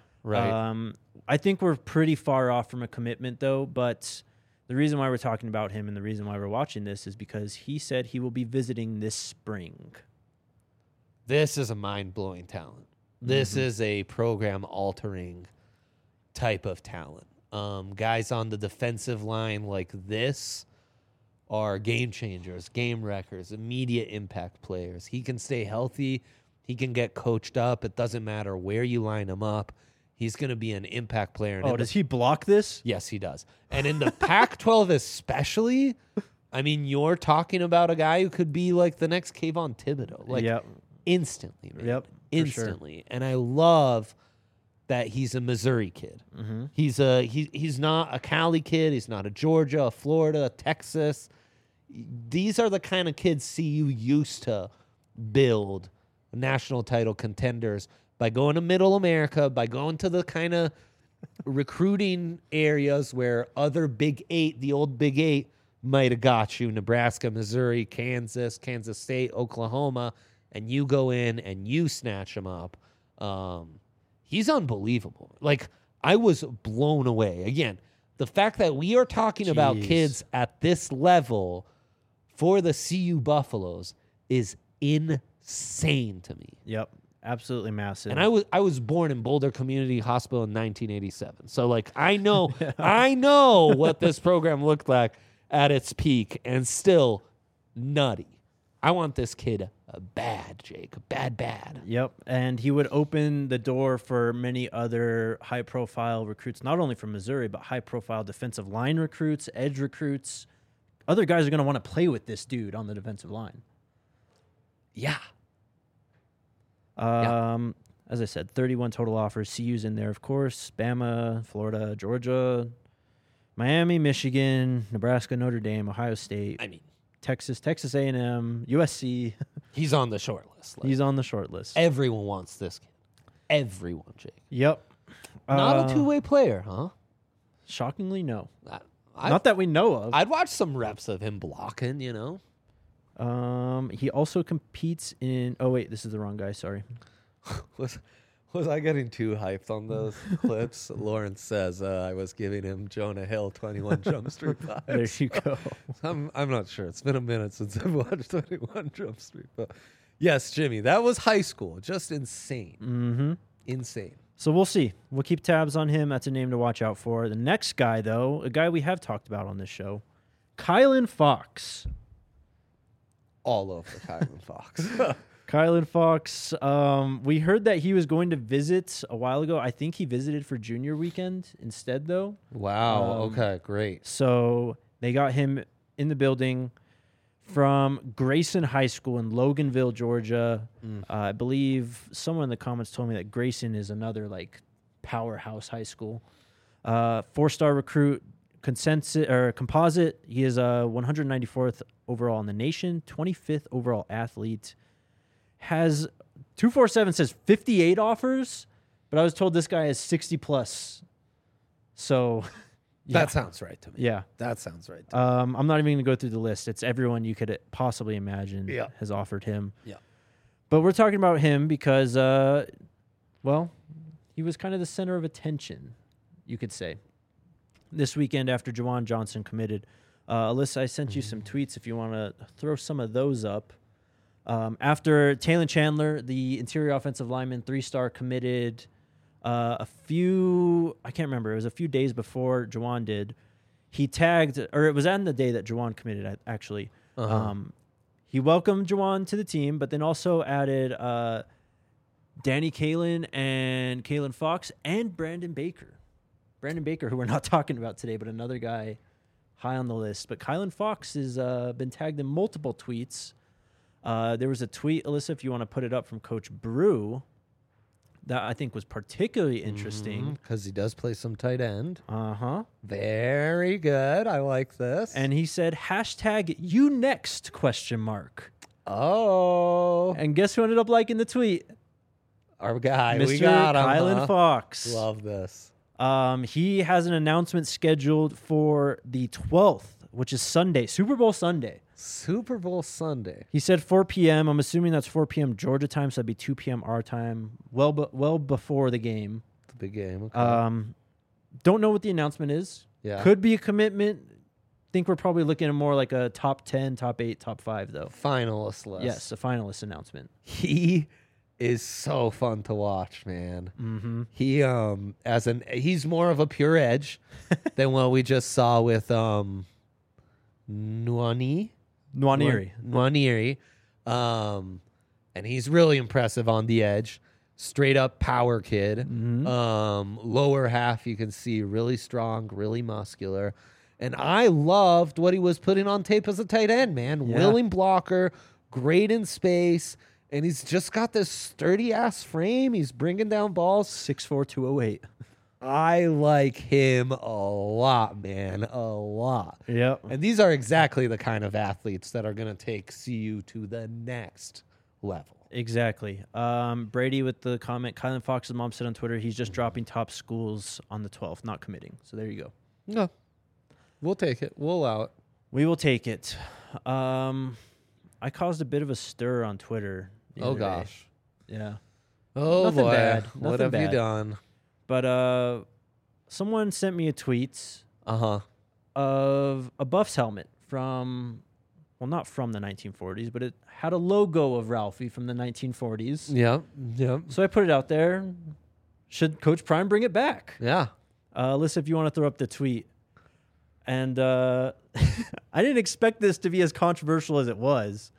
Speaker 1: I think we're pretty far off from a commitment, though. But the reason why we're talking about him and the reason why we're watching this is because he said he will be visiting this spring.
Speaker 2: This is a mind-blowing talent. This is a program-altering type of talent. Guys on the defensive line like this are game changers, game wreckers, immediate impact players. He can stay healthy. He can get coached up. It doesn't matter where you line him up. He's going to be an impact player.
Speaker 1: Oh, does he block this?
Speaker 2: Yes, he does. And in the Pac-12 especially, I mean, you're talking about a guy who could be like the next Kayvon Thibodeau. Like,
Speaker 1: Yep.
Speaker 2: instantly, man.
Speaker 1: Yep, for
Speaker 2: Instantly. And I love that he's a Missouri kid.
Speaker 1: Mm-hmm.
Speaker 2: He's not a Cali kid. He's not a Georgia, a Florida, a Texas. These are the kind of kids CU used to build national title contenders by going to Middle America, by going to the kind of recruiting areas where other Big Eight, the old Big Eight, might have got you. Nebraska, Missouri, Kansas, Kansas State, Oklahoma, and you go in and you snatch him up. He's unbelievable. Like, I was blown away. Again, the fact that we are talking about
Speaker 1: Jeez.
Speaker 2: kids at this level for the CU Buffaloes is insane to me.
Speaker 1: Yep. Absolutely massive.
Speaker 2: And I was born in Boulder Community Hospital in 1987. So like I know what this program looked like at its peak, and still nutty. I want this kid bad, Jake. Bad.
Speaker 1: Yep. And he would open the door for many other high-profile recruits, not only from Missouri, but high-profile defensive line recruits, edge recruits. Other guys are going to want to play with this dude on the defensive line.
Speaker 2: Yeah.
Speaker 1: As I said, 31 total offers. CU's in there, of course. Bama, Florida, Georgia, Miami, Michigan, Nebraska, Notre Dame, Ohio State.
Speaker 2: I mean,
Speaker 1: Texas A&M, USC.
Speaker 2: he's on the short list. Like,
Speaker 1: He's on the short list.
Speaker 2: everyone wants this kid. Everyone, Jake.
Speaker 1: Yep.
Speaker 2: Not a two-way player, huh?
Speaker 1: Shockingly, no.
Speaker 2: I,
Speaker 1: Not that we know of.
Speaker 2: I'd watch some reps of him blocking, you know?
Speaker 1: He also competes in... Oh, wait, this is the wrong guy. Sorry.
Speaker 2: Was I getting too hyped on those clips? Lawrence says I was giving him Jonah Hill 21 Jump Street vibes.
Speaker 1: There you go.
Speaker 2: I'm not sure. It's been a minute since I've watched 21 Jump Street. But yes, Jimmy, that was high school. Just insane.
Speaker 1: Mm-hmm.
Speaker 2: Insane.
Speaker 1: So we'll see. We'll keep tabs on him. That's a name to watch out for. The next guy, though, a guy we have talked about on this show, Kylan Fox.
Speaker 2: All over Kylan Fox.
Speaker 1: Kylan Fox. We heard that he was going to visit a while ago. I think he visited for junior weekend instead, though.
Speaker 2: Wow. Okay, great.
Speaker 1: So they got him in the building from Grayson High School in Loganville, Georgia. I believe someone in the comments told me that Grayson is another like powerhouse high school. 4-star recruit, composite. He is 194th overall in the nation, 25th overall athlete. Has 247 says 58 offers, but I was told this guy has 60 plus. So yeah.
Speaker 2: That sounds right to me.
Speaker 1: Yeah.
Speaker 2: That sounds right to me.
Speaker 1: I'm not even going to go through the list. It's everyone you could possibly imagine
Speaker 2: Yeah.
Speaker 1: has offered him.
Speaker 2: Yeah.
Speaker 1: But we're talking about him because, well, he was kind of the center of attention, you could say. This weekend after Juwan Johnson committed. Alyssa, I sent you some tweets if you want to throw some of those up. After Taylon Chandler, the interior offensive lineman, 3-star, committed I can't remember, it was a few days before Juwan did. He tagged, or it was on the day that Juwan committed, actually. He welcomed Juwan to the team, but then also added Danny Kaelin and Kaelin Fox and Brandon Baker. Brandon Baker, who we're not talking about today, but another guy high on the list. But Kaelin Fox has been tagged in multiple tweets. There was a tweet, Alyssa, if you want to put it up, from Coach Brew that I think was particularly interesting.
Speaker 2: Because he does play some tight end.
Speaker 1: Uh-huh.
Speaker 2: Very good. I like this.
Speaker 1: And he said, hashtag you next, ?
Speaker 2: Oh.
Speaker 1: And guess who ended up liking the tweet?
Speaker 2: Our guy.
Speaker 1: Mr.
Speaker 2: We got him.
Speaker 1: Kaelin Fox.
Speaker 2: Love this.
Speaker 1: He has an announcement scheduled for the 12th, which is Sunday, Super Bowl Sunday.
Speaker 2: Super Bowl Sunday.
Speaker 1: He said 4 p.m. I'm assuming that's 4 p.m. Georgia time, so that'd be 2 p.m. our time, well before the game.
Speaker 2: The big game. Okay.
Speaker 1: Don't know what the announcement is.
Speaker 2: Yeah.
Speaker 1: Could be a commitment. Think we're probably looking at more like a top 10, top 8, top 5, though.
Speaker 2: Finalist list.
Speaker 1: Yes, a finalist announcement.
Speaker 2: He is so fun to watch, man.
Speaker 1: Mm-hmm.
Speaker 2: He's more of a pure edge than what we just saw with Nwaneri. And he's really impressive on the edge. Straight up power kid.
Speaker 1: Mm-hmm.
Speaker 2: Lower half, you can see really strong, really muscular. And I loved what he was putting on tape as a tight end, man.
Speaker 1: Yeah.
Speaker 2: Willing blocker, great in space. And he's just got this sturdy ass frame. He's bringing down balls.
Speaker 1: 6'4", 208.
Speaker 2: I like him a lot, man. A lot.
Speaker 1: Yep.
Speaker 2: And these are exactly the kind of athletes that are going to take CU to the next level.
Speaker 1: Exactly. Brady with the comment, Kaelin Fox's mom said on Twitter, he's just dropping top schools on the 12th, not committing. So there you go.
Speaker 2: No. We'll take it. We'll allow it.
Speaker 1: We will take it. I caused a bit of a stir on Twitter. the
Speaker 2: Oh,
Speaker 1: other day.
Speaker 2: gosh.
Speaker 1: Yeah.
Speaker 2: Oh,
Speaker 1: Nothing
Speaker 2: boy.
Speaker 1: bad.
Speaker 2: What
Speaker 1: Nothing
Speaker 2: have you
Speaker 1: bad.
Speaker 2: done?
Speaker 1: But someone sent me a tweet
Speaker 2: Uh-huh.
Speaker 1: of a Buffs helmet from, well, not from the 1940s, but it had a logo of Ralphie from the 1940s.
Speaker 2: Yep. Yep.
Speaker 1: So I put it out there. Should Coach Prime bring it back?
Speaker 2: Yeah.
Speaker 1: Alyssa, if you want to throw up the tweet. And I didn't expect this to be as controversial as it was.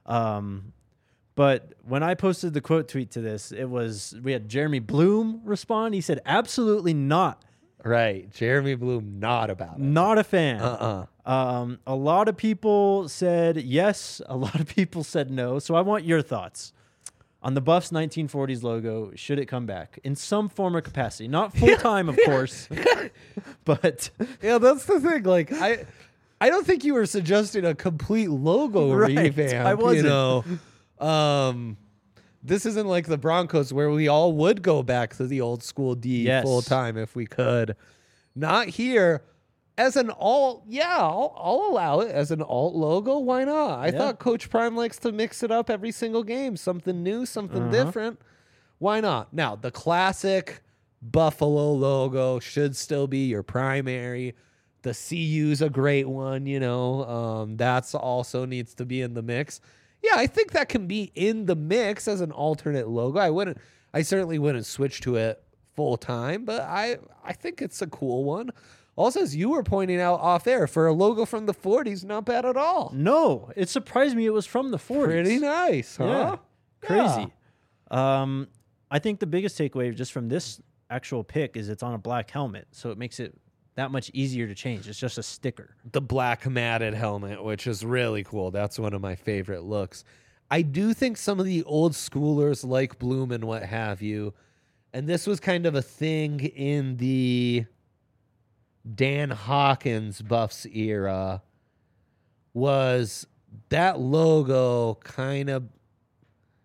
Speaker 1: But when I posted the quote tweet to this, we had Jeremy Bloom respond. He said, absolutely not.
Speaker 2: Right. Jeremy Bloom, not about it.
Speaker 1: Not a fan.
Speaker 2: Uh-uh.
Speaker 1: A lot of people said yes. A lot of people said no. So I want your thoughts on the Buffs 1940s logo. Should it come back in some form or capacity? Not full time, of course. But
Speaker 2: Yeah, that's the thing. Like, I don't think you were suggesting a complete logo
Speaker 1: Right.
Speaker 2: revamp.
Speaker 1: I wasn't.
Speaker 2: You know, this isn't like the Broncos where we all would go back to the old school D
Speaker 1: Yes.
Speaker 2: full time if we could. Not here. As an alt, yeah, I'll allow it as an alt logo. Why not? I
Speaker 1: Yeah.
Speaker 2: thought Coach Prime likes to mix it up every single game, something new, something different. Why not? Now, the classic Buffalo logo should still be your primary. The CU's a great one, you know. That's also needs to be in the mix. Yeah, I think that can be in the mix as an alternate logo. I certainly wouldn't switch to it full time, but I think it's a cool one. Also, as you were pointing out off air, for a logo from the 40s, not bad at all.
Speaker 1: no, it surprised me it was from the 40s.
Speaker 2: Pretty nice, huh?
Speaker 1: Yeah. Crazy. I think the biggest takeaway just from this actual pick is it's on a black helmet, so it makes it that much easier to change. It's just a sticker.
Speaker 2: The black matted helmet, which is really cool. That's one of my favorite looks. I do think some of the old schoolers like Bloom and what have you, and this was kind of a thing in the Dan Hawkins Buffs era, was that logo kind of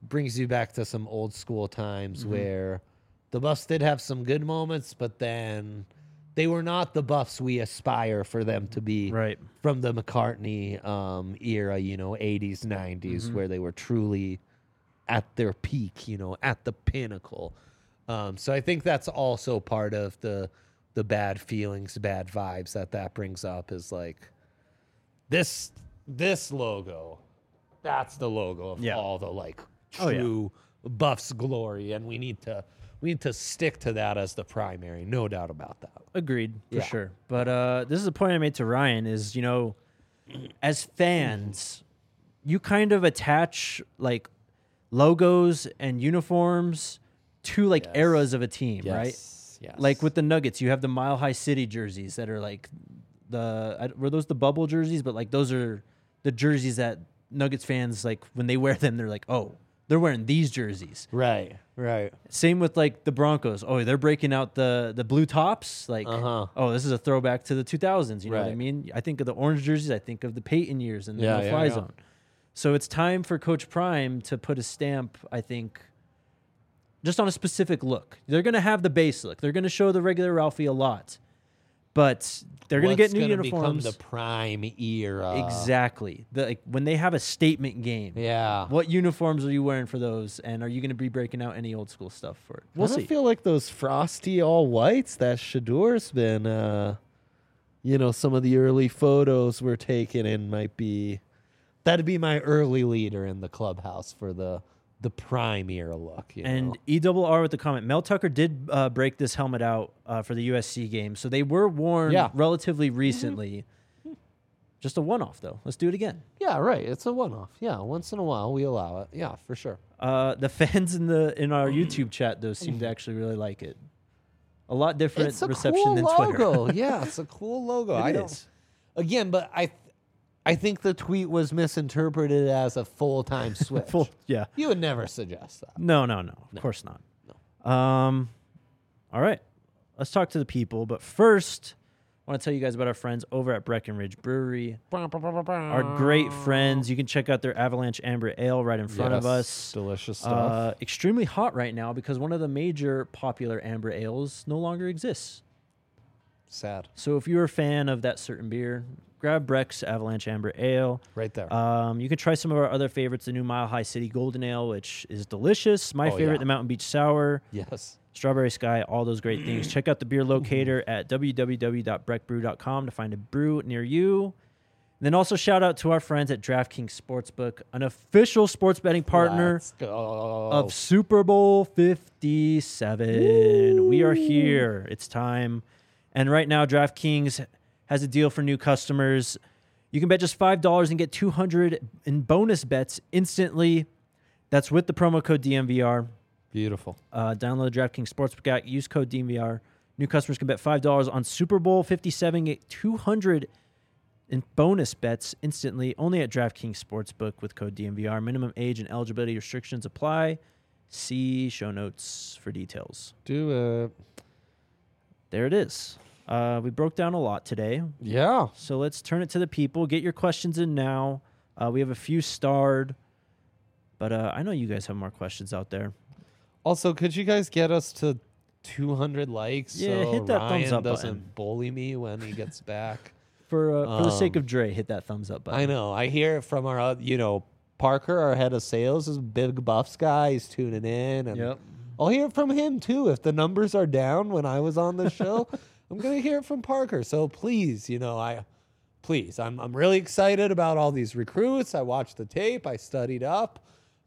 Speaker 2: brings you back to some old school times where the Buffs did have some good moments, but then they were not the Buffs we aspire for them to be
Speaker 1: Right.
Speaker 2: from the McCartney era, 80s, 90s, where they were truly at their peak, at the pinnacle. So I think that's also part of the bad feelings, bad vibes that brings up is like this logo. That's the logo of all the like true Buffs glory, and we need to stick to that as the primary, no doubt about that.
Speaker 1: Agreed, for
Speaker 2: Yeah.
Speaker 1: sure. But this is a point I made to Ryan is, as fans, you kind of attach like logos and uniforms to like eras of a team, right?
Speaker 2: Yes.
Speaker 1: Like with the Nuggets, you have the Mile High City jerseys that are like were those the bubble jerseys? But like those are the jerseys that Nuggets fans, like when they wear them, they're like, oh, they're wearing these jerseys.
Speaker 2: Right.
Speaker 1: Same with like the Broncos. Oh, they're breaking out the blue tops. Like, oh, this is a throwback to the 2000s. You know what I
Speaker 2: Right.
Speaker 1: mean? I think of the orange jerseys. I think of the Peyton years and the
Speaker 2: Yeah,
Speaker 1: no-fly
Speaker 2: yeah.
Speaker 1: zone. So it's time for Coach Prime to put a stamp, I think, just on a specific look. They're going to have the base look. They're going to show the regular Ralphie a lot. But they're going to get new uniforms.
Speaker 2: Become the prime era.
Speaker 1: Exactly. When they have a statement game.
Speaker 2: Yeah.
Speaker 1: What uniforms are you wearing for those? And are you going to be breaking out any old school stuff for it? We'll
Speaker 2: I don't
Speaker 1: see.
Speaker 2: feel like those frosty all whites that Shador's been, some of the early photos were taken in that'd be my early leader in the clubhouse for the prime era look.
Speaker 1: And ERR with the comment, Mel Tucker did break this helmet out for the USC game. So they were worn relatively recently. Just a one-off, though. Let's do it again.
Speaker 2: Yeah, right. It's a one-off. Yeah, once in a while we allow it. Yeah, for sure.
Speaker 1: The fans in our YouTube chat, though, seem to actually really like it. A lot different
Speaker 2: It's a
Speaker 1: reception
Speaker 2: cool
Speaker 1: than
Speaker 2: logo.
Speaker 1: Twitter.
Speaker 2: Yeah, it's a cool logo.
Speaker 1: It
Speaker 2: I
Speaker 1: is.
Speaker 2: don't. Again, but I think the tweet was misinterpreted as a full-time switch.
Speaker 1: Yeah.
Speaker 2: You would never suggest that.
Speaker 1: No. Of course not. No. All right. Let's talk to the people. But first, I want to tell you guys about our friends over at Breckenridge Brewery. Our great friends. You can check out their Avalanche Amber Ale right in front of us.
Speaker 2: Delicious stuff.
Speaker 1: Extremely hot right now because one of the major popular amber ales no longer exists.
Speaker 2: Sad.
Speaker 1: So if you're a fan of that certain beer, grab Breck's Avalanche Amber Ale.
Speaker 2: Right there.
Speaker 1: You can try some of our other favorites, the new Mile High City Golden Ale, which is delicious. My favorite,
Speaker 2: yeah.
Speaker 1: the Mountain Beach Sour.
Speaker 2: Yes.
Speaker 1: Strawberry Sky, all those great things. Check out the beer locator at www.breckbrew.com to find a brew near you. And then also shout out to our friends at DraftKings Sportsbook, an official sports betting partner
Speaker 2: Let's go.
Speaker 1: of Super Bowl 57. We are here. It's time. And right now, DraftKings has a deal for new customers. You can bet just $5 and get $200 in bonus bets instantly. That's with the promo code DMVR.
Speaker 2: Beautiful.
Speaker 1: Download the DraftKings Sportsbook app. Use code DMVR. New customers can bet $5 on Super Bowl 57. Get $200 in bonus bets instantly. Only at DraftKings Sportsbook with code DMVR. Minimum age and eligibility restrictions apply. See show notes for details.
Speaker 2: Do it.
Speaker 1: There it is. We broke down a lot today.
Speaker 2: Yeah.
Speaker 1: So let's turn it to the people. Get your questions in now. We have a few starred. But I know you guys have more questions out there.
Speaker 2: Also, could you guys get us to 200 likes
Speaker 1: Yeah,
Speaker 2: so
Speaker 1: hit that
Speaker 2: Ryan
Speaker 1: thumbs up
Speaker 2: doesn't
Speaker 1: button.
Speaker 2: bully me when he gets back?
Speaker 1: For the sake of Dre, hit that thumbs up button.
Speaker 2: I know. I hear it from our, Parker, our head of sales, is a big Buffs guy. He's tuning in. And
Speaker 1: Yep.
Speaker 2: I'll hear it from him, too. If the numbers are down when I was on the show, I'm going to hear it from Parker. So please, I'm really excited about all these recruits. I watched the tape. I studied up.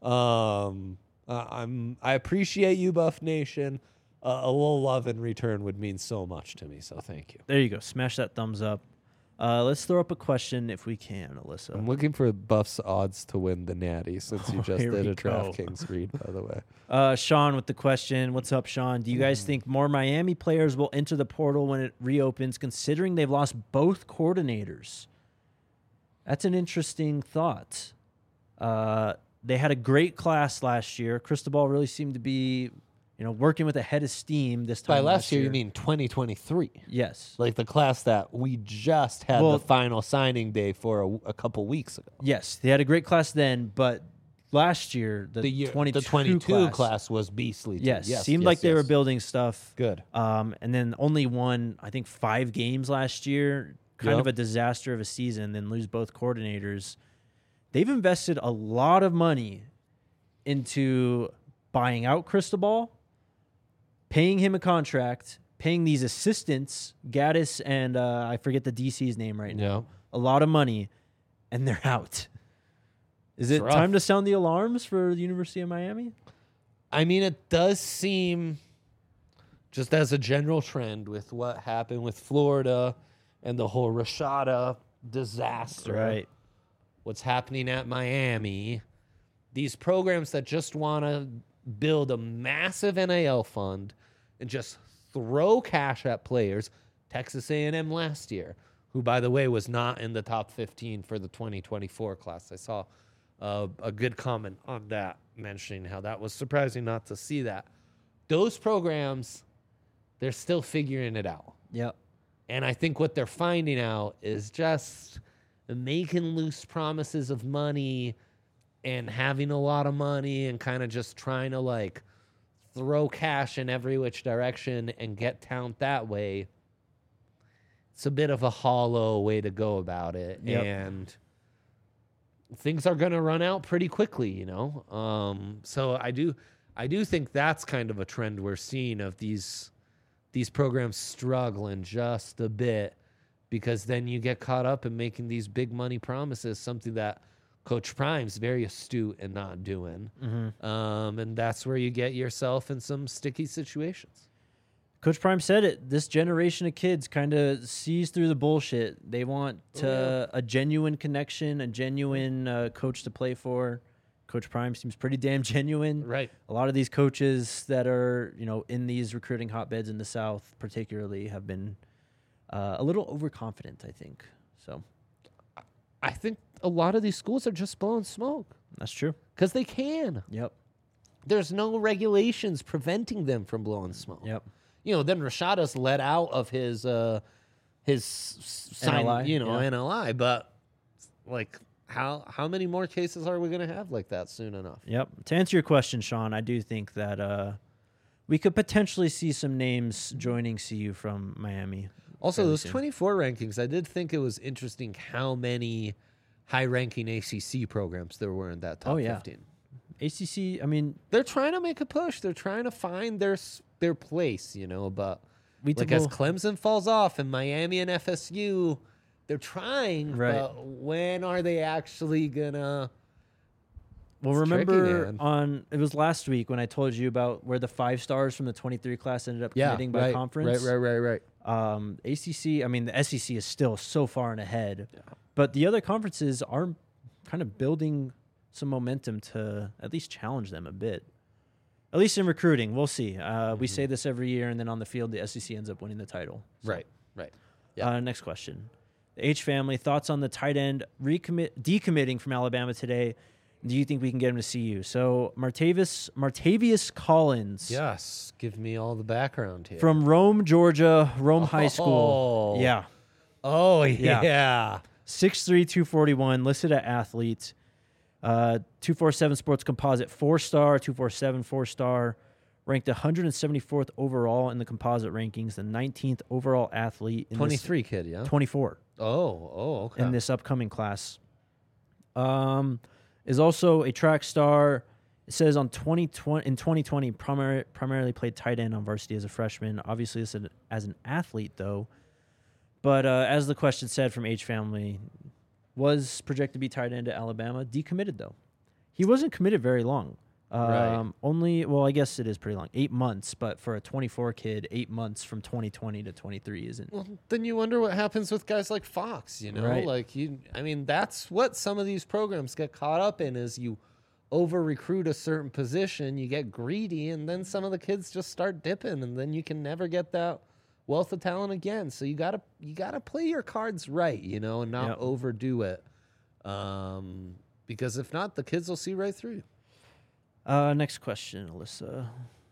Speaker 2: I appreciate you, Buff Nation. A little love in return would mean so much to me. So thank you.
Speaker 1: There you go. Smash that thumbs up. Let's throw up a question if we can, Alyssa.
Speaker 2: I'm looking for Buff's odds to win the Natty since you just
Speaker 1: here
Speaker 2: did
Speaker 1: we
Speaker 2: a
Speaker 1: go.
Speaker 2: DraftKings read, by the way.
Speaker 1: Sean with the question. What's up, Sean? Do you guys think more Miami players will enter the portal when it reopens, considering they've lost both coordinators? That's an interesting thought. They had a great class last year. Cristobal really seemed to be, working with a head of steam this time.
Speaker 2: By last year, you mean 2023?
Speaker 1: Yes.
Speaker 2: Like the class that we just had the final signing day for a couple weeks ago.
Speaker 1: Yes, they had a great class then, but last year, the
Speaker 2: 22 class was beastly. Too.
Speaker 1: Yes,
Speaker 2: Yes,
Speaker 1: seemed
Speaker 2: yes,
Speaker 1: like they were
Speaker 2: yes.
Speaker 1: building stuff.
Speaker 2: Good.
Speaker 1: And then only won, I think, 5 games last year. Kind
Speaker 2: Yep.
Speaker 1: of a disaster of a season. Then lose both coordinators. They've invested a lot of money into buying out Cristobal, paying him a contract, paying these assistants, Gaddis and I forget the DC's name right now.
Speaker 2: Yeah.
Speaker 1: A lot of money, and they're out. Is it
Speaker 2: rough.
Speaker 1: time to sound the alarms for the University of Miami?
Speaker 2: I mean, it does seem, just as a general trend with what happened with Florida and the whole Rashada disaster, what's happening at Miami, these programs that just want to build a massive NIL fund and just throw cash at players. Texas A&M last year, who, by the way, was not in the top 15 for the 2024 class. I saw a good comment on that, mentioning how that was surprising not to see that. Those programs, they're still figuring it out.
Speaker 1: Yep.
Speaker 2: And I think what they're finding out is just making loose promises of money and having a lot of money and kind of just trying to like throw cash in every which direction and get talent that way. It's a bit of a hollow way to go about it.
Speaker 1: Yep.
Speaker 2: And things are going to run out pretty quickly, you know? So I do think that's kind of a trend we're seeing of these programs struggling just a bit, because then you get caught up in making these big money promises, something that Coach Prime's very astute in not doing. And that's where you get yourself in some sticky situations.
Speaker 1: Coach Prime said it. This generation of kids kind of sees through the bullshit. They want a genuine connection, a genuine coach to play for. Coach Prime seems pretty damn genuine.
Speaker 2: Right.
Speaker 1: A lot of these coaches that are, in these recruiting hotbeds in the South particularly have been a little overconfident, I think. So
Speaker 2: I think a lot of these schools are just blowing smoke
Speaker 1: that's true.
Speaker 2: because they can.
Speaker 1: Yep.
Speaker 2: There's no regulations preventing them from blowing smoke.
Speaker 1: Yep.
Speaker 2: Then Rashada's let out of his sign,
Speaker 1: NLI,
Speaker 2: NLI. But like, how many more cases are we going to have like that soon enough?
Speaker 1: Yep. To answer your question, Sean, I do think that we could potentially see some names joining CU from Miami.
Speaker 2: Also,
Speaker 1: fairly
Speaker 2: those
Speaker 1: soon.
Speaker 2: 24 rankings, I did think it was interesting how many high-ranking ACC programs there were in that top 15.
Speaker 1: ACC, I mean,
Speaker 2: They're trying to make a push. They're trying to find their place, but as Clemson falls off and Miami and FSU, they're trying,
Speaker 1: Right.
Speaker 2: but when are they actually gonna?
Speaker 1: well,
Speaker 2: It's tricky,
Speaker 1: remember
Speaker 2: man.
Speaker 1: it was last week when I told you about where the 5 stars from the 23 class ended up committing by conference.
Speaker 2: Right.
Speaker 1: ACC, I mean, the SEC is still so far and ahead, but the other conferences are kind of building some momentum to at least challenge them a bit. At least in recruiting, we'll see. We say this every year, and then on the field, the SEC ends up winning the title. So,
Speaker 2: Right. Yeah.
Speaker 1: next question. The H family, thoughts on the tight end decommitting from Alabama today. Do you think we can get him to CU? So Martavius Collins
Speaker 2: Yes. Give me all the background here.
Speaker 1: from Rome, Georgia, Rome High School.
Speaker 2: Oh.
Speaker 1: Yeah.
Speaker 2: Oh
Speaker 1: Yeah.
Speaker 2: yeah.
Speaker 1: 6'3", 241, listed at athlete. 247 Sports Composite 4-star, 247 4-star, ranked 174th overall in the composite rankings, the 19th overall athlete in
Speaker 2: 23 kid, yeah.
Speaker 1: 24
Speaker 2: Okay.
Speaker 1: in this upcoming class. Is also a track star. It says in 2020 primarily played tight end on varsity as a freshman. Obviously as an athlete though. But as the question said from H family, was projected to be tight end at Alabama, decommitted though. He wasn't committed very long.
Speaker 2: Right.
Speaker 1: I guess it is pretty long. 8 months, but for a 24 kid, 8 months from 2020 to 23 isn't.
Speaker 2: Well, then you wonder what happens with guys like Fox,
Speaker 1: Right.
Speaker 2: That's what some of these programs get caught up in is you over recruit a certain position, you get greedy, and then some of the kids just start dipping, and then you can never get that wealth of talent again. So you gotta play your cards right, and not
Speaker 1: Yep.
Speaker 2: overdo it. Because if not, the kids will see right through you.
Speaker 1: Next question, Alyssa.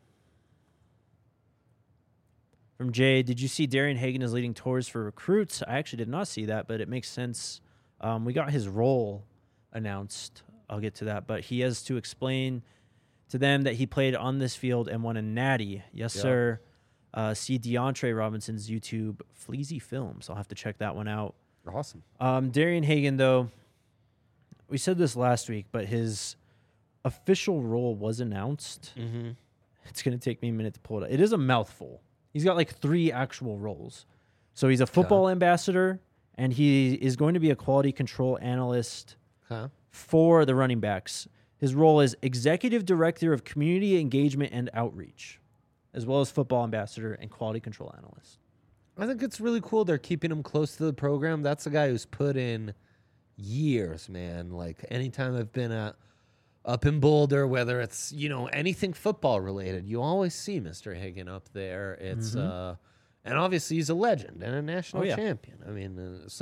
Speaker 1: From Jay, did you see Darian Hagan is leading tours for recruits? I actually did not see that, but it makes sense. We got his role announced I'll get to that. But he has to explain to them that he played on this field and won a natty. Yes, sir. See DeAndre Robinson's YouTube Fleazy Films. I'll have to check that one out.
Speaker 2: Awesome.
Speaker 1: Darian Hagan, though, we said this last week, but his official role was announced.
Speaker 2: Mm-hmm.
Speaker 1: It's going to take me a minute to pull it up. It is a mouthful. He's got like 3 actual roles. So he's a football ambassador, and he is going to be a quality control analyst for the running backs. His role is Executive Director of Community Engagement and Outreach, as well as football ambassador and quality control analyst.
Speaker 2: I think it's really cool they're keeping him close to the program. That's a guy who's put in years, man. Like anytime I've been up in Boulder, whether it's, anything football related, you always see Mr. Hagan up there. It's and obviously he's a legend and a national champion. I mean,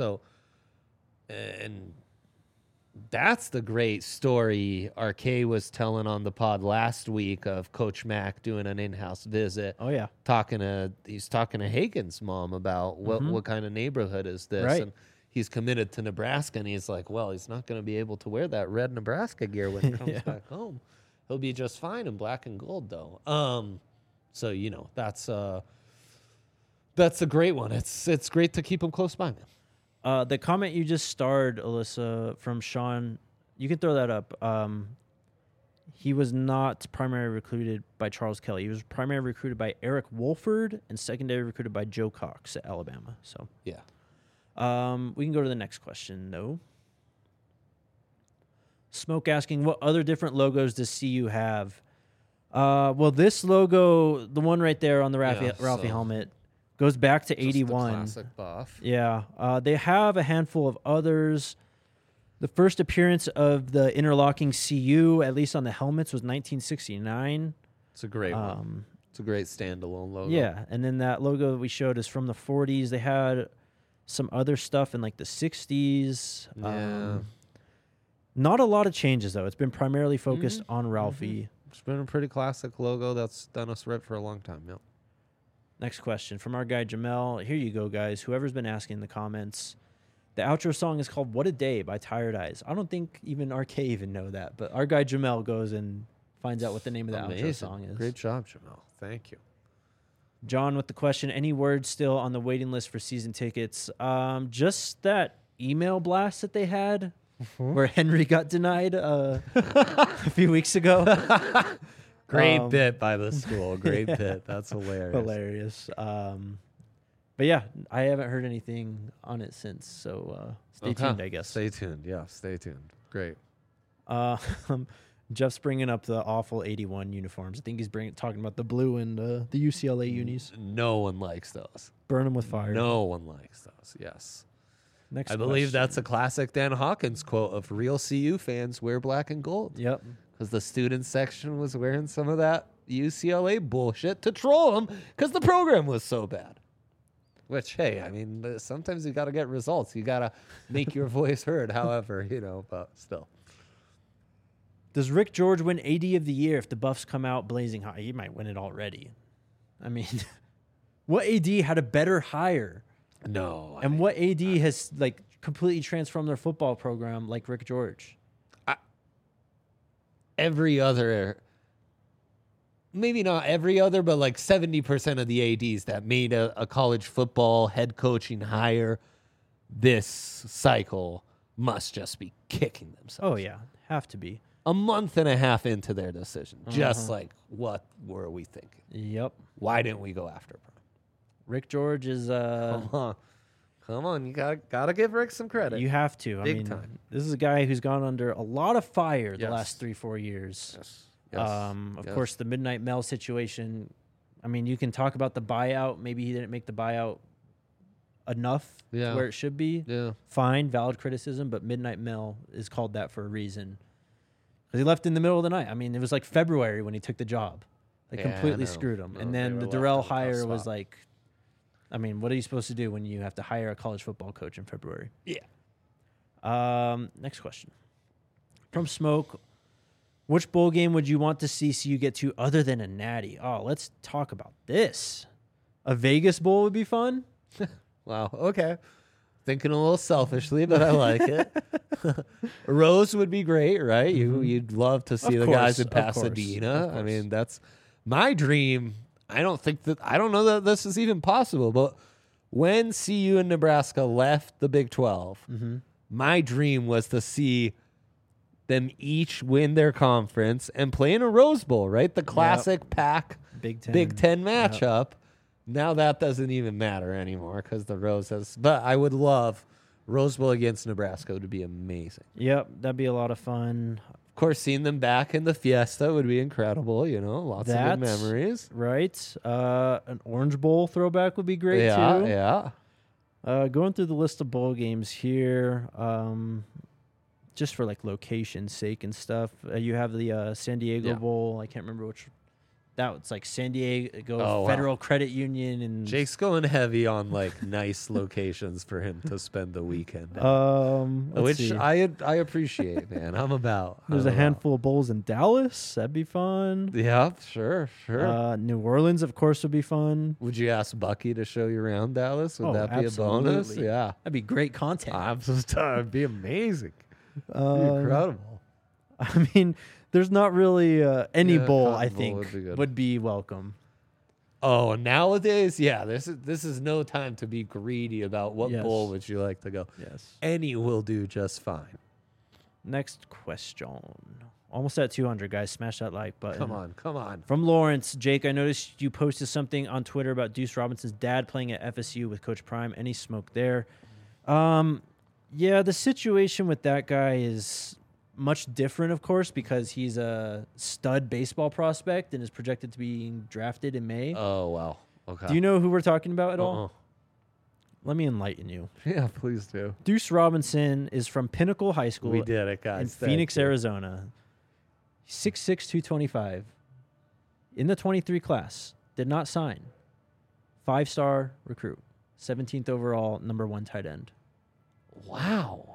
Speaker 2: and that's the great story RK was telling on the pod last week of Coach Mack doing an in-house visit.
Speaker 1: Oh yeah,
Speaker 2: he's talking to Hagan's mom about what kind of neighborhood is this,
Speaker 1: right.
Speaker 2: And he's committed to Nebraska, and he's like, well, he's not going to be able to wear that red Nebraska gear when he comes back home. He'll be just fine in black and gold though. So that's a great one. It's great to keep him close by, man.
Speaker 1: The comment you just starred, Alyssa, from Sean, you can throw that up. He was not primarily recruited by Charles Kelly. He was primarily recruited by Eric Wolford and secondary recruited by Joe Cox at Alabama. So
Speaker 2: yeah.
Speaker 1: We can go to the next question, though. Smoke asking, what other different logos does CU have? Well, this logo, the one right there on the Ralphie helmet, goes back to 81.
Speaker 2: The classic buff.
Speaker 1: Yeah. They have a handful of others. The first appearance of the interlocking CU, at least on the helmets, was 1969.
Speaker 2: It's a great one. It's a great standalone logo.
Speaker 1: Yeah. And then that logo that we showed is from the 40s. They had some other stuff in like the 60s.
Speaker 2: Yeah.
Speaker 1: Not a lot of changes, though. It's been primarily focused on Ralphie.
Speaker 2: It's been a pretty classic logo that's done us right for a long time. Yep.
Speaker 1: Next question from our guy Jamel. Here you go, guys. Whoever's been asking in the comments. The outro song is called What a Day by Tired Eyes. I don't think even RK even know that, but our guy Jamel goes and finds out what the name of the outro song is.
Speaker 2: Great job, Jamel. Thank you.
Speaker 1: John with the question, any word still on the waiting list for season tickets? Just that email blast that they had where Henry got denied a few weeks ago.
Speaker 2: Great bit by the school. Great bit. That's hilarious.
Speaker 1: Hilarious. But yeah, I haven't heard anything on it since, so stay tuned, I guess.
Speaker 2: Stay tuned. Yeah, stay tuned. Great.
Speaker 1: Jeff's bringing up the awful 81 uniforms. I think he's talking about the blue and the UCLA unis.
Speaker 2: No one likes those.
Speaker 1: Burn them with fire.
Speaker 2: No one likes those. Yes.
Speaker 1: Next
Speaker 2: I believe that's a classic Dan Hawkins quote of real CU fans wear black and gold.
Speaker 1: Yep.
Speaker 2: Because the student section was wearing some of that UCLA bullshit to troll them because the program was so bad. Which, hey, I mean, sometimes you got to get results. You got to make your voice heard, however, but still.
Speaker 1: Does Rick George win AD of the year if the Buffs come out blazing hot? He might win it already. I mean, what AD had a better hire?
Speaker 2: No.
Speaker 1: And what AD has, completely transformed their football program like Rick George?
Speaker 2: Every other, maybe not every other, but 70% of the ADs that made a college football head coaching hire this cycle must just be kicking themselves.
Speaker 1: Oh, yeah. Have to be.
Speaker 2: A month and a half into their decision. Just what were we thinking?
Speaker 1: Yep.
Speaker 2: Why didn't we go after him?
Speaker 1: Rick George is...
Speaker 2: Come on. You gotta give Rick some credit.
Speaker 1: You have to.
Speaker 2: Big time.
Speaker 1: This is a guy who's gone under a lot of fire the last 3-4 years.
Speaker 2: Yes.
Speaker 1: Of course, the Midnight Mel situation. I mean, you can talk about the buyout. Maybe he didn't make the buyout enough to where it should be.
Speaker 2: Yeah.
Speaker 1: Fine, valid criticism, but Midnight Mel is called that for a reason. Because he left in the middle of the night. I mean, it was like February when he took the job. They completely screwed him. And then the Darrell hire was like, I mean, what are you supposed to do when you have to hire a college football coach in February?
Speaker 2: Yeah.
Speaker 1: Next question. From Smoke, which bowl game would you want to see CU get to other than a natty? Oh, let's talk about this. A Vegas Bowl would be fun.
Speaker 2: Wow. Okay. Thinking a little selfishly, but I like it. Rose would be great, right? You'd love to see the guys in Pasadena. I mean, that's my dream. I don't know that this is even possible, but when CU and Nebraska left the Big 12, my dream was to see them each win their conference and play in a Rose Bowl, right? The classic Pac Big Ten matchup. Now that doesn't even matter anymore because the Rose has. But I would love Rose Bowl against Nebraska. Would be amazing.
Speaker 1: Yep, that'd be a lot of fun.
Speaker 2: Of course, seeing them back in the Fiesta would be incredible. Lots of good memories.
Speaker 1: Right. An Orange Bowl throwback would be great too.
Speaker 2: Yeah.
Speaker 1: Going through the list of bowl games here, just for like location's sake and stuff. You have the San Diego Bowl. I can't remember which. That was like San Diego Federal Credit Union, and
Speaker 2: Jake's going heavy on like nice locations for him to spend the weekend.
Speaker 1: Let's see.
Speaker 2: I appreciate, man. I'm about.
Speaker 1: There's a handful of bowls in Dallas. That'd be fun.
Speaker 2: Yeah, sure.
Speaker 1: New Orleans, of course, would be fun.
Speaker 2: Would you ask Bucky to show you around Dallas? Would that be
Speaker 1: absolutely.
Speaker 2: a bonus? Yeah,
Speaker 1: that'd be great content.
Speaker 2: It'd be amazing. It'd be incredible.
Speaker 1: I mean, there's not really any bowl I
Speaker 2: Bowl
Speaker 1: think
Speaker 2: would be
Speaker 1: welcome.
Speaker 2: Oh, nowadays, yeah, this is no time to be greedy about what bowl would you like to go.
Speaker 1: Yes.
Speaker 2: Any will do just fine.
Speaker 1: Next question. Almost at 200, guys. Smash that like button.
Speaker 2: Come on.
Speaker 1: From Lawrence, Jake, I noticed you posted something on Twitter about Deuce Robinson's dad playing at FSU with Coach Prime. Any smoke there? Yeah, the situation with that guy is much different, of course, because he's a stud baseball prospect and is projected to be drafted in May.
Speaker 2: Oh, wow. Okay.
Speaker 1: Do you know who we're talking about at all? Let me enlighten you.
Speaker 2: Yeah, please do.
Speaker 1: Deuce Robinson is from Pinnacle High School.
Speaker 2: We did it, guys.
Speaker 1: In Phoenix, Arizona. 6'6", 225. In the 23 class. Did not sign. 5-star recruit. 17th overall, number 1 tight end.
Speaker 2: Wow.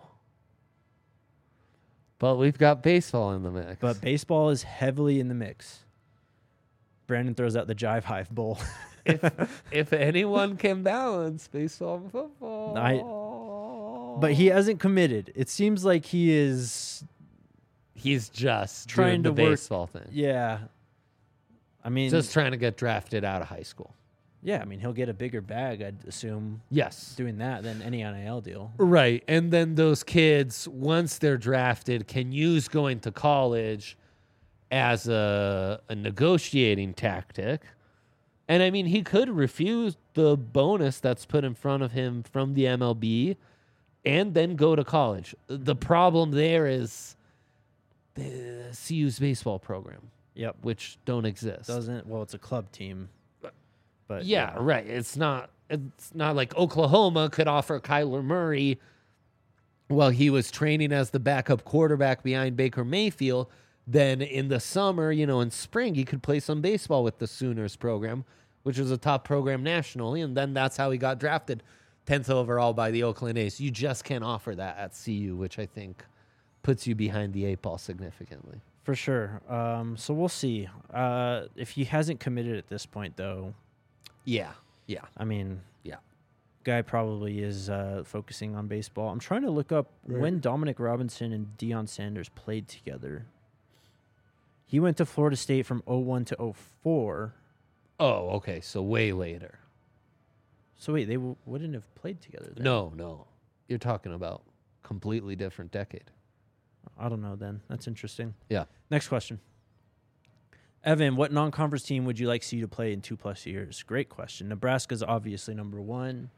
Speaker 2: But we've got baseball in the mix.
Speaker 1: But baseball is heavily in the mix. Brandon throws out the Jive Hive Bowl.
Speaker 2: if anyone can balance baseball and football.
Speaker 1: But he hasn't committed. It seems like he's
Speaker 2: just
Speaker 1: trying
Speaker 2: doing
Speaker 1: to
Speaker 2: the baseball thing.
Speaker 1: Yeah. I mean,
Speaker 2: just trying to get drafted out of high school.
Speaker 1: Yeah, I mean, he'll get a bigger bag, I'd assume.
Speaker 2: Yes.
Speaker 1: Doing that than any NIL deal.
Speaker 2: Right. And then those kids, once they're drafted, can use going to college as a negotiating tactic. And, I mean, he could refuse the bonus that's put in front of him from the MLB and then go to college. The problem there is the CU's baseball program.
Speaker 1: Yep.
Speaker 2: Which don't exist.
Speaker 1: Well, it's a club team. But
Speaker 2: yeah, right. It's not like Oklahoma could offer Kyler Murray while he was training as the backup quarterback behind Baker Mayfield. Then in the summer, in spring, he could play some baseball with the Sooners program, which was a top program nationally. And then that's how he got drafted 10th overall by the Oakland A's. You just can't offer that at CU, which I think puts you behind the 8 ball significantly.
Speaker 1: For sure. So we'll see. If he hasn't committed at this point, though.
Speaker 2: Yeah.
Speaker 1: I mean,
Speaker 2: yeah.
Speaker 1: Guy probably is focusing on baseball. I'm trying to look up when Dominic Robinson and Deion Sanders played together. He went to Florida State from 01 to 04.
Speaker 2: Oh, okay. So way later.
Speaker 1: So wait, they wouldn't have played together then?
Speaker 2: No. You're talking about completely different decade.
Speaker 1: I don't know then. That's interesting.
Speaker 2: Yeah.
Speaker 1: Next question. Evan, what non-conference team would you like CU to play in 2+ years? Great question. Nebraska's obviously number 1.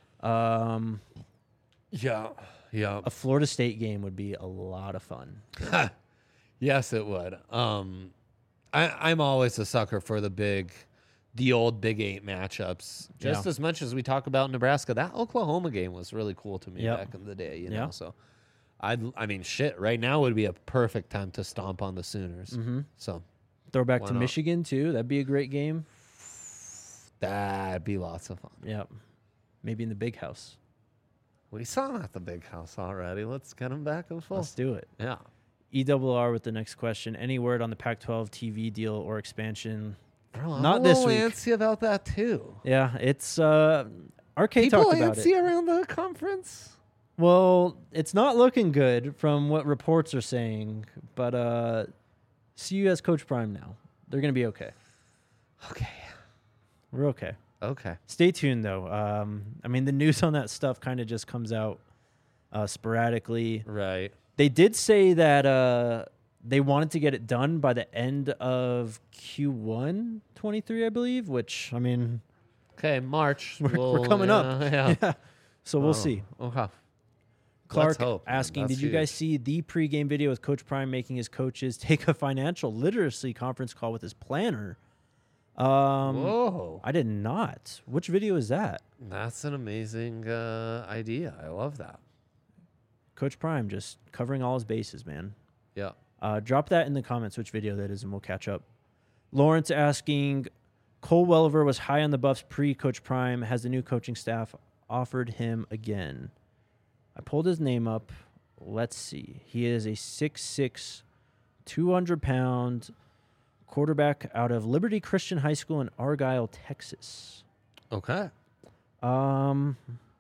Speaker 2: Yeah.
Speaker 1: A Florida State game would be a lot of fun.
Speaker 2: Yes, it would. I'm always a sucker for the old Big 8 matchups. Just as much as we talk about Nebraska, that Oklahoma game was really cool to me back in the day. You know, so I mean, shit. Right now would be a perfect time to stomp on the Sooners.
Speaker 1: Mm-hmm.
Speaker 2: So.
Speaker 1: Throwback to Michigan, too. That'd be a great game.
Speaker 2: That'd be lots of fun.
Speaker 1: Yep. Maybe in the big house.
Speaker 2: We saw him at the big house already. Let's get him back in full.
Speaker 1: Let's do it.
Speaker 2: Yeah.
Speaker 1: ERR with the next question. Any word on the Pac-12 TV deal or expansion?
Speaker 2: Bro, I'm
Speaker 1: Not
Speaker 2: a
Speaker 1: this
Speaker 2: little
Speaker 1: week.
Speaker 2: antsy about that, too.
Speaker 1: Yeah, it's... RK
Speaker 2: People
Speaker 1: talked about
Speaker 2: antsy
Speaker 1: it.
Speaker 2: around the conference?
Speaker 1: Well, it's not looking good from what reports are saying, but CU has Coach Prime now. They're going to be okay.
Speaker 2: Okay.
Speaker 1: We're okay.
Speaker 2: Okay.
Speaker 1: Stay tuned, though. I mean, the news on that stuff kind of just comes out sporadically.
Speaker 2: Right.
Speaker 1: They did say that they wanted to get it done by the end of Q1 23, I believe, which, I mean,
Speaker 2: Okay, March.
Speaker 1: we're coming up.
Speaker 2: Yeah.
Speaker 1: So we'll see.
Speaker 2: Okay.
Speaker 1: Clark
Speaker 2: hope, man.
Speaker 1: asking,
Speaker 2: That's
Speaker 1: did you guys
Speaker 2: huge.
Speaker 1: see the pregame video with Coach Prime making his coaches take a financial literacy conference call with his planner?
Speaker 2: Whoa.
Speaker 1: I did not. Which video is that?
Speaker 2: That's an amazing idea. I love that.
Speaker 1: Coach Prime just covering all his bases, man.
Speaker 2: Yeah.
Speaker 1: Drop that in the comments which video that is, and we'll catch up. Lawrence asking, Cole Welliver was high on the Buffs pre-Coach Prime. Has the new coaching staff offered him again? I pulled his name up. Let's see. He is a 6'6", 200-pound quarterback out of Liberty Christian High School in Argyle, Texas.
Speaker 2: Okay.
Speaker 1: So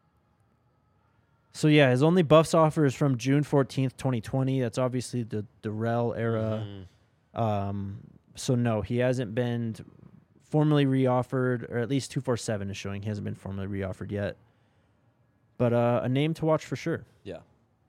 Speaker 1: yeah, his only Buffs offer is from June 14th, 2020. That's obviously the Darrell era. So no, he hasn't been formally reoffered, or at least 247 is showing he hasn't been formally reoffered yet. But a name to watch for sure.
Speaker 2: Yeah.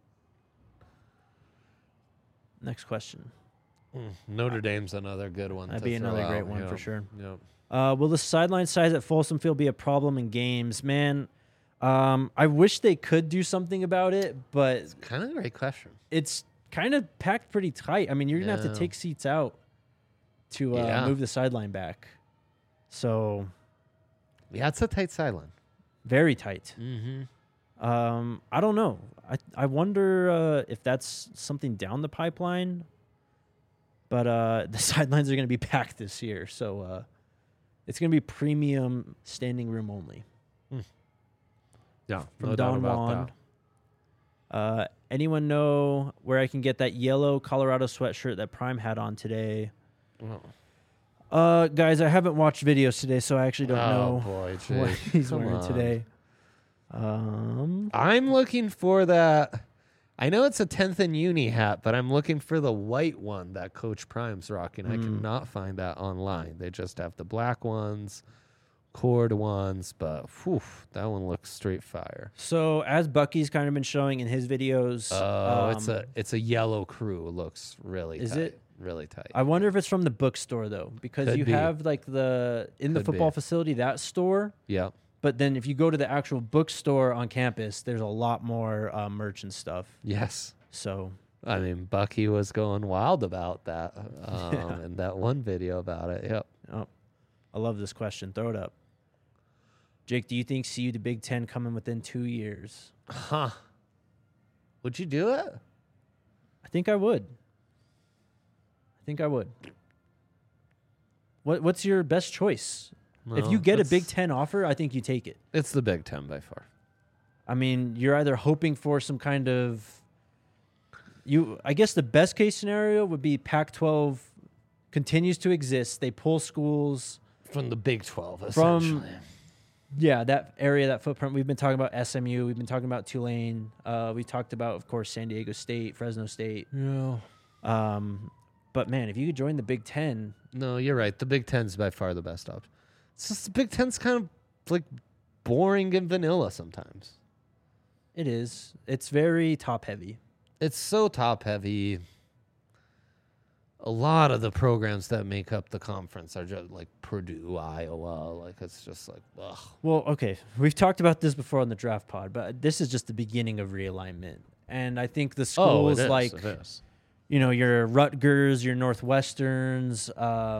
Speaker 1: Next question.
Speaker 2: Notre Dame's another good one.
Speaker 1: That'd
Speaker 2: to
Speaker 1: be
Speaker 2: throw
Speaker 1: another great
Speaker 2: out.
Speaker 1: one
Speaker 2: Yep.
Speaker 1: for sure.
Speaker 2: Yep.
Speaker 1: Will the sideline size at Folsom Field be a problem in games? Man, I wish they could do something about it, but
Speaker 2: Kind of a great question.
Speaker 1: it's kind of packed pretty tight. I mean, you're going to have to
Speaker 2: Yeah.
Speaker 1: take seats out to
Speaker 2: Yeah.
Speaker 1: move the sideline back. So,
Speaker 2: Yeah, it's a tight sideline.
Speaker 1: very tight.
Speaker 2: Mm-hmm.
Speaker 1: I don't know. I wonder if that's something down the pipeline. But the sidelines are going to be packed this year. So it's going to be premium standing room only.
Speaker 2: Yeah,
Speaker 1: From
Speaker 2: no doubt
Speaker 1: Don
Speaker 2: about
Speaker 1: Juan.
Speaker 2: that.
Speaker 1: Anyone know where I can get that yellow Colorado sweatshirt that Prime had on today?
Speaker 2: Well,
Speaker 1: Guys, I haven't watched videos today, so I actually don't know
Speaker 2: boy,
Speaker 1: what
Speaker 2: Jake,
Speaker 1: he's
Speaker 2: come
Speaker 1: wearing
Speaker 2: on.
Speaker 1: today.
Speaker 2: I'm looking for that. I know it's a 10th and uni hat, but I'm looking for the white one that Coach Prime's rocking. I cannot find that online. They just have the black ones, cord ones, but whew, that one looks straight fire.
Speaker 1: So as Bucky's kind of been showing in his videos,
Speaker 2: It's a yellow crew. It looks really
Speaker 1: Is
Speaker 2: tight.
Speaker 1: it?
Speaker 2: Really tight.
Speaker 1: I wonder if it's from the bookstore though, because
Speaker 2: Could
Speaker 1: you
Speaker 2: be.
Speaker 1: have like in the
Speaker 2: Could
Speaker 1: football
Speaker 2: be.
Speaker 1: facility, that store.
Speaker 2: Yep.
Speaker 1: But then if you go to the actual bookstore on campus, there's a lot more merch and stuff.
Speaker 2: Yes.
Speaker 1: So
Speaker 2: I mean, Bucky was going wild about that
Speaker 1: Yeah.
Speaker 2: in that one video about it. Yep.
Speaker 1: oh, I love this question. Throw it up. Jake, do you think CU to Big Ten coming within 2 years?
Speaker 2: Huh. Would you do it?
Speaker 1: I think I would. What's your best choice? If
Speaker 2: No,
Speaker 1: you get a
Speaker 2: it's-
Speaker 1: Big Ten offer, I think you take it.
Speaker 2: It's the Big Ten by far.
Speaker 1: I mean, you're either hoping for some kind of I guess the best case scenario would be Pac-12 continues to exist. They pull schools
Speaker 2: From the Big 12,
Speaker 1: From-
Speaker 2: essentially.
Speaker 1: that area, that footprint. We've been talking about SMU. We've been talking about Tulane. We talked about, of course, San Diego State, Fresno State.
Speaker 2: Yeah.
Speaker 1: But man, if you could join the Big Ten,
Speaker 2: No, you're right. The Big Ten's by far the best option. It's just the Big Ten's kind of like boring and vanilla sometimes.
Speaker 1: it is. It's very top heavy.
Speaker 2: It's so top heavy. A lot of the programs that make up the conference are just like Purdue, Iowa. Like it's just like, ugh.
Speaker 1: Well, okay, we've talked about this before on the draft pod, but this is just the beginning of realignment. And I think the schools like
Speaker 2: It is.
Speaker 1: your Rutgers, your Northwesterns,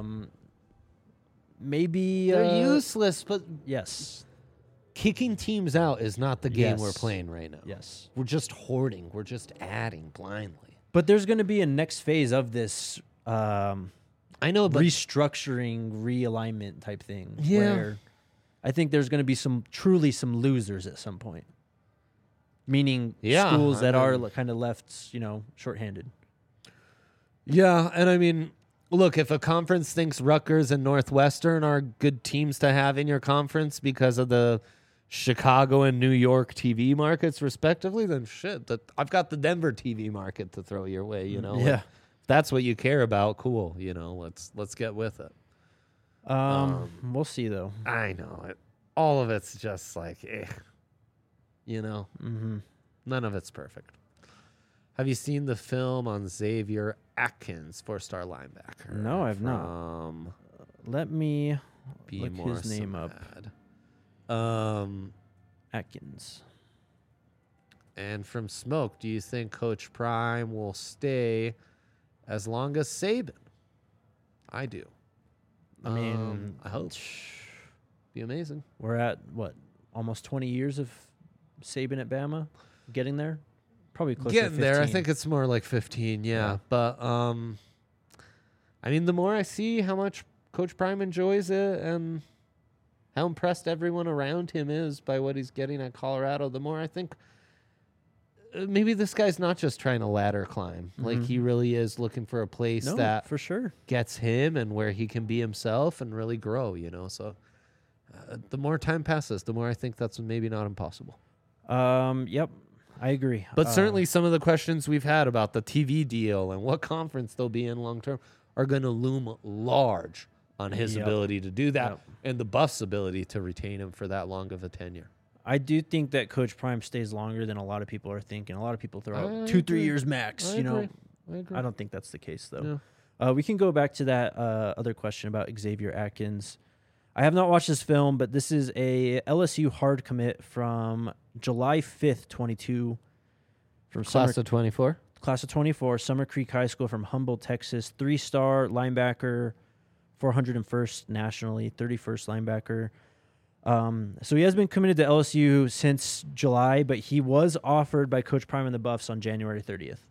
Speaker 1: maybe
Speaker 2: They're useless, but
Speaker 1: Yes,
Speaker 2: kicking teams out is not the game we're
Speaker 1: Yes.
Speaker 2: playing right now.
Speaker 1: yes.
Speaker 2: We're just hoarding. We're just adding blindly.
Speaker 1: But there's going to be a next phase of this
Speaker 2: I know, but
Speaker 1: restructuring, realignment type thing.
Speaker 2: Yeah.
Speaker 1: Where I think there's going to be truly some losers at some point. Meaning
Speaker 2: Yeah,
Speaker 1: schools that
Speaker 2: I
Speaker 1: are
Speaker 2: mean-
Speaker 1: kind of left, shorthanded.
Speaker 2: yeah, and I mean, look, if a conference thinks Rutgers and Northwestern are good teams to have in your conference because of the Chicago and New York TV markets respectively, then shit, I've got the Denver TV market to throw your way, you know.
Speaker 1: Yeah.
Speaker 2: Like, if that's what you care about, cool, you know, let's get with it.
Speaker 1: We'll see though.
Speaker 2: I know it. All of it's just like, you know, none of it's perfect. Have you seen the film on Xavier Atkins, 4-star linebacker?
Speaker 1: No, I've not. Let me look his name up. Atkins.
Speaker 2: And from Smoke, do you think Coach Prime will stay as long as Saban? I do.
Speaker 1: I mean,
Speaker 2: I hope. Be amazing.
Speaker 1: We're at what, almost 20 years of Saban at Bama, getting there. Probably close to 15.
Speaker 2: There. I think it's more like 15. Yeah. But I mean, the more I see how much Coach Prime enjoys it and how impressed everyone around him is by what he's getting at Colorado, the more I think maybe this guy's not just trying to ladder climb. Like, he really is looking for a place that
Speaker 1: for sure
Speaker 2: gets him and where he can be himself and really grow, you know. So the more time passes, the more I think that's maybe not impossible.
Speaker 1: Yep, I agree.
Speaker 2: But certainly some of the questions we've had about the TV deal and what conference they'll be in long term are going to loom large on his ability to do that and the Buffs' ability to retain him for that long of a tenure.
Speaker 1: I do think that Coach Prime stays longer than a lot of people are thinking. A lot of people throw out 2-3 years max.
Speaker 2: I agree.
Speaker 1: I don't think that's the case though. Yeah. We can go back to that other question about Xavier Atkins. I have not watched this film, but this is a LSU hard commit from July 5th, 22. From
Speaker 2: Class of 24?
Speaker 1: Class of 24, Summer Creek High School from Humboldt, Texas. 3-star linebacker, 401st nationally, 31st linebacker. So he has been committed to LSU since July, but he was offered by Coach Prime and the Buffs on January 30th.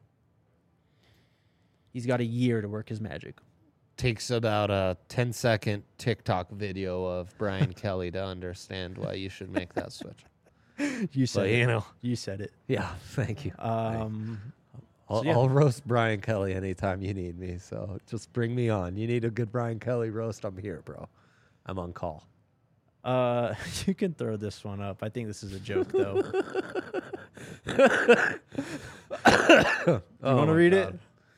Speaker 1: He's got a year to work his magic.
Speaker 2: Takes about a 10-second TikTok video of Brian Kelly to understand why you should make that switch.
Speaker 1: You said
Speaker 2: but,
Speaker 1: it.
Speaker 2: you know.
Speaker 1: You said it.
Speaker 2: Yeah, thank you.
Speaker 1: So, yeah.
Speaker 2: I'll roast Brian Kelly anytime you need me, so just bring me on. You need a good Brian Kelly roast, I'm here, bro. I'm on call.
Speaker 1: You can throw this one up. I think this is a joke, though. You want to read it?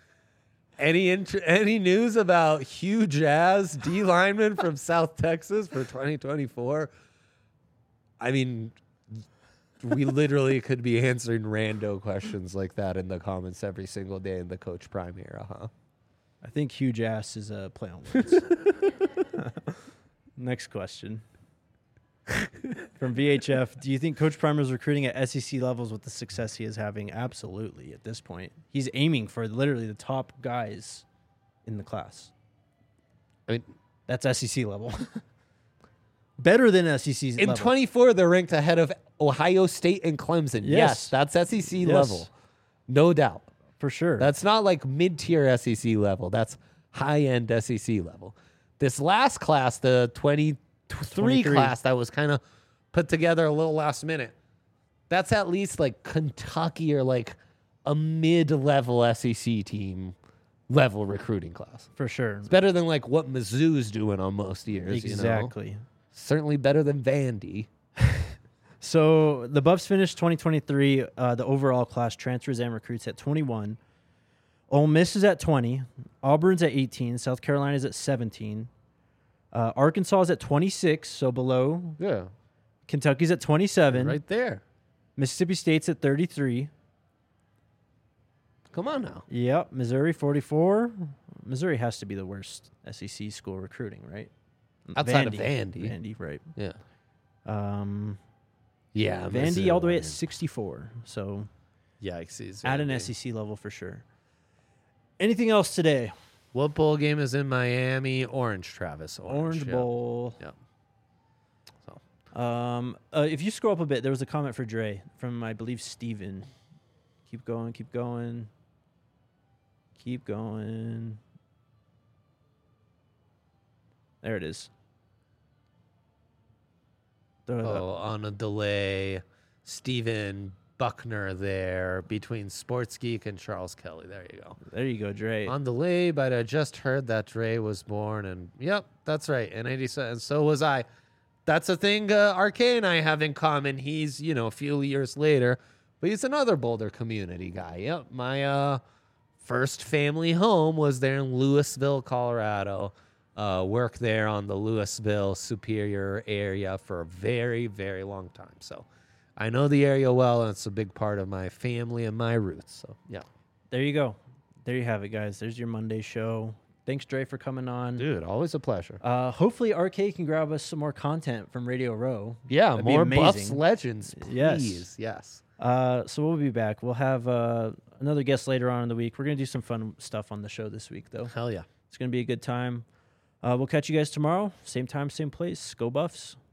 Speaker 2: Any news about Hugh Jazz, D lineman from South Texas for 2024? I mean, we literally could be answering rando questions like that in the comments every single day in the Coach Prime era, huh?
Speaker 1: I think huge ass is a play on words. Next question. From VHF, do you think Coach Prime is recruiting at SEC levels with the success he is having? Absolutely, at this point. He's aiming for literally the top guys in the class.
Speaker 2: I mean,
Speaker 1: that's SEC level. Better than SEC level.
Speaker 2: In 24, they're ranked ahead of Ohio State and Clemson. Yes, that's SEC level. No doubt.
Speaker 1: For sure.
Speaker 2: That's not like mid-tier SEC level. That's high-end SEC level. This last class, the 23 class that was kind of put together a little last minute, that's at least like Kentucky or like a mid-level SEC team level recruiting class.
Speaker 1: For sure.
Speaker 2: It's better than like what Mizzou's doing on most years.
Speaker 1: Exactly.
Speaker 2: You know? Certainly better than Vandy.
Speaker 1: So the Buffs finished 2023, the overall class transfers and recruits at 21. Ole Miss is at 20. Auburn's at 18. South Carolina's at 17. Arkansas is at 26, so below.
Speaker 2: Yeah.
Speaker 1: Kentucky's at 27.
Speaker 2: Right there.
Speaker 1: Mississippi State's at 33.
Speaker 2: Come on now.
Speaker 1: Yep. Missouri, 44. Missouri has to be the worst SEC school recruiting, right?
Speaker 2: Outside of Vandy.
Speaker 1: Vandy, right.
Speaker 2: Yeah.
Speaker 1: Yeah. Vandy all the way at 64. So
Speaker 2: yikes.
Speaker 1: At an SEC level for sure. Anything else today?
Speaker 2: What bowl game is in Miami? Orange, Travis.
Speaker 1: Orange Bowl.
Speaker 2: Yep.
Speaker 1: So. If you scroll up a bit, there was a comment for Dre from, I believe, Steven. Keep going, keep going. Keep going. There it is.
Speaker 2: On a delay. Steven Buckner there between Sports Geek and Charles Kelly. There you go.
Speaker 1: There you go, Dre.
Speaker 2: On delay, but I just heard that Dre was born, and yep, that's right. In 87, and so was I. that's a thing RK and I have in common. He's, a few years later, but he's another Boulder community guy. Yep. My first family home was there in Louisville, Colorado. Worked there on the Louisville Superior area for a very, very long time. So I know the area well, and it's a big part of my family and my roots. So, yeah.
Speaker 1: There you go. There you have it, guys. There's your Monday show. Thanks, Dre, for coming on.
Speaker 2: Dude, always a pleasure.
Speaker 1: Hopefully, RK can grab us some more content from Radio Row.
Speaker 2: Yeah,
Speaker 1: That'd be
Speaker 2: more
Speaker 1: amazing.
Speaker 2: Buffs legends, please.
Speaker 1: Yes.
Speaker 2: Yes.
Speaker 1: So we'll be back. We'll have another guest later on in the week. We're going to do some fun stuff on the show this week, though.
Speaker 2: Hell yeah.
Speaker 1: It's going to be a good time. We'll catch you guys tomorrow. Same time, same place. Go Buffs.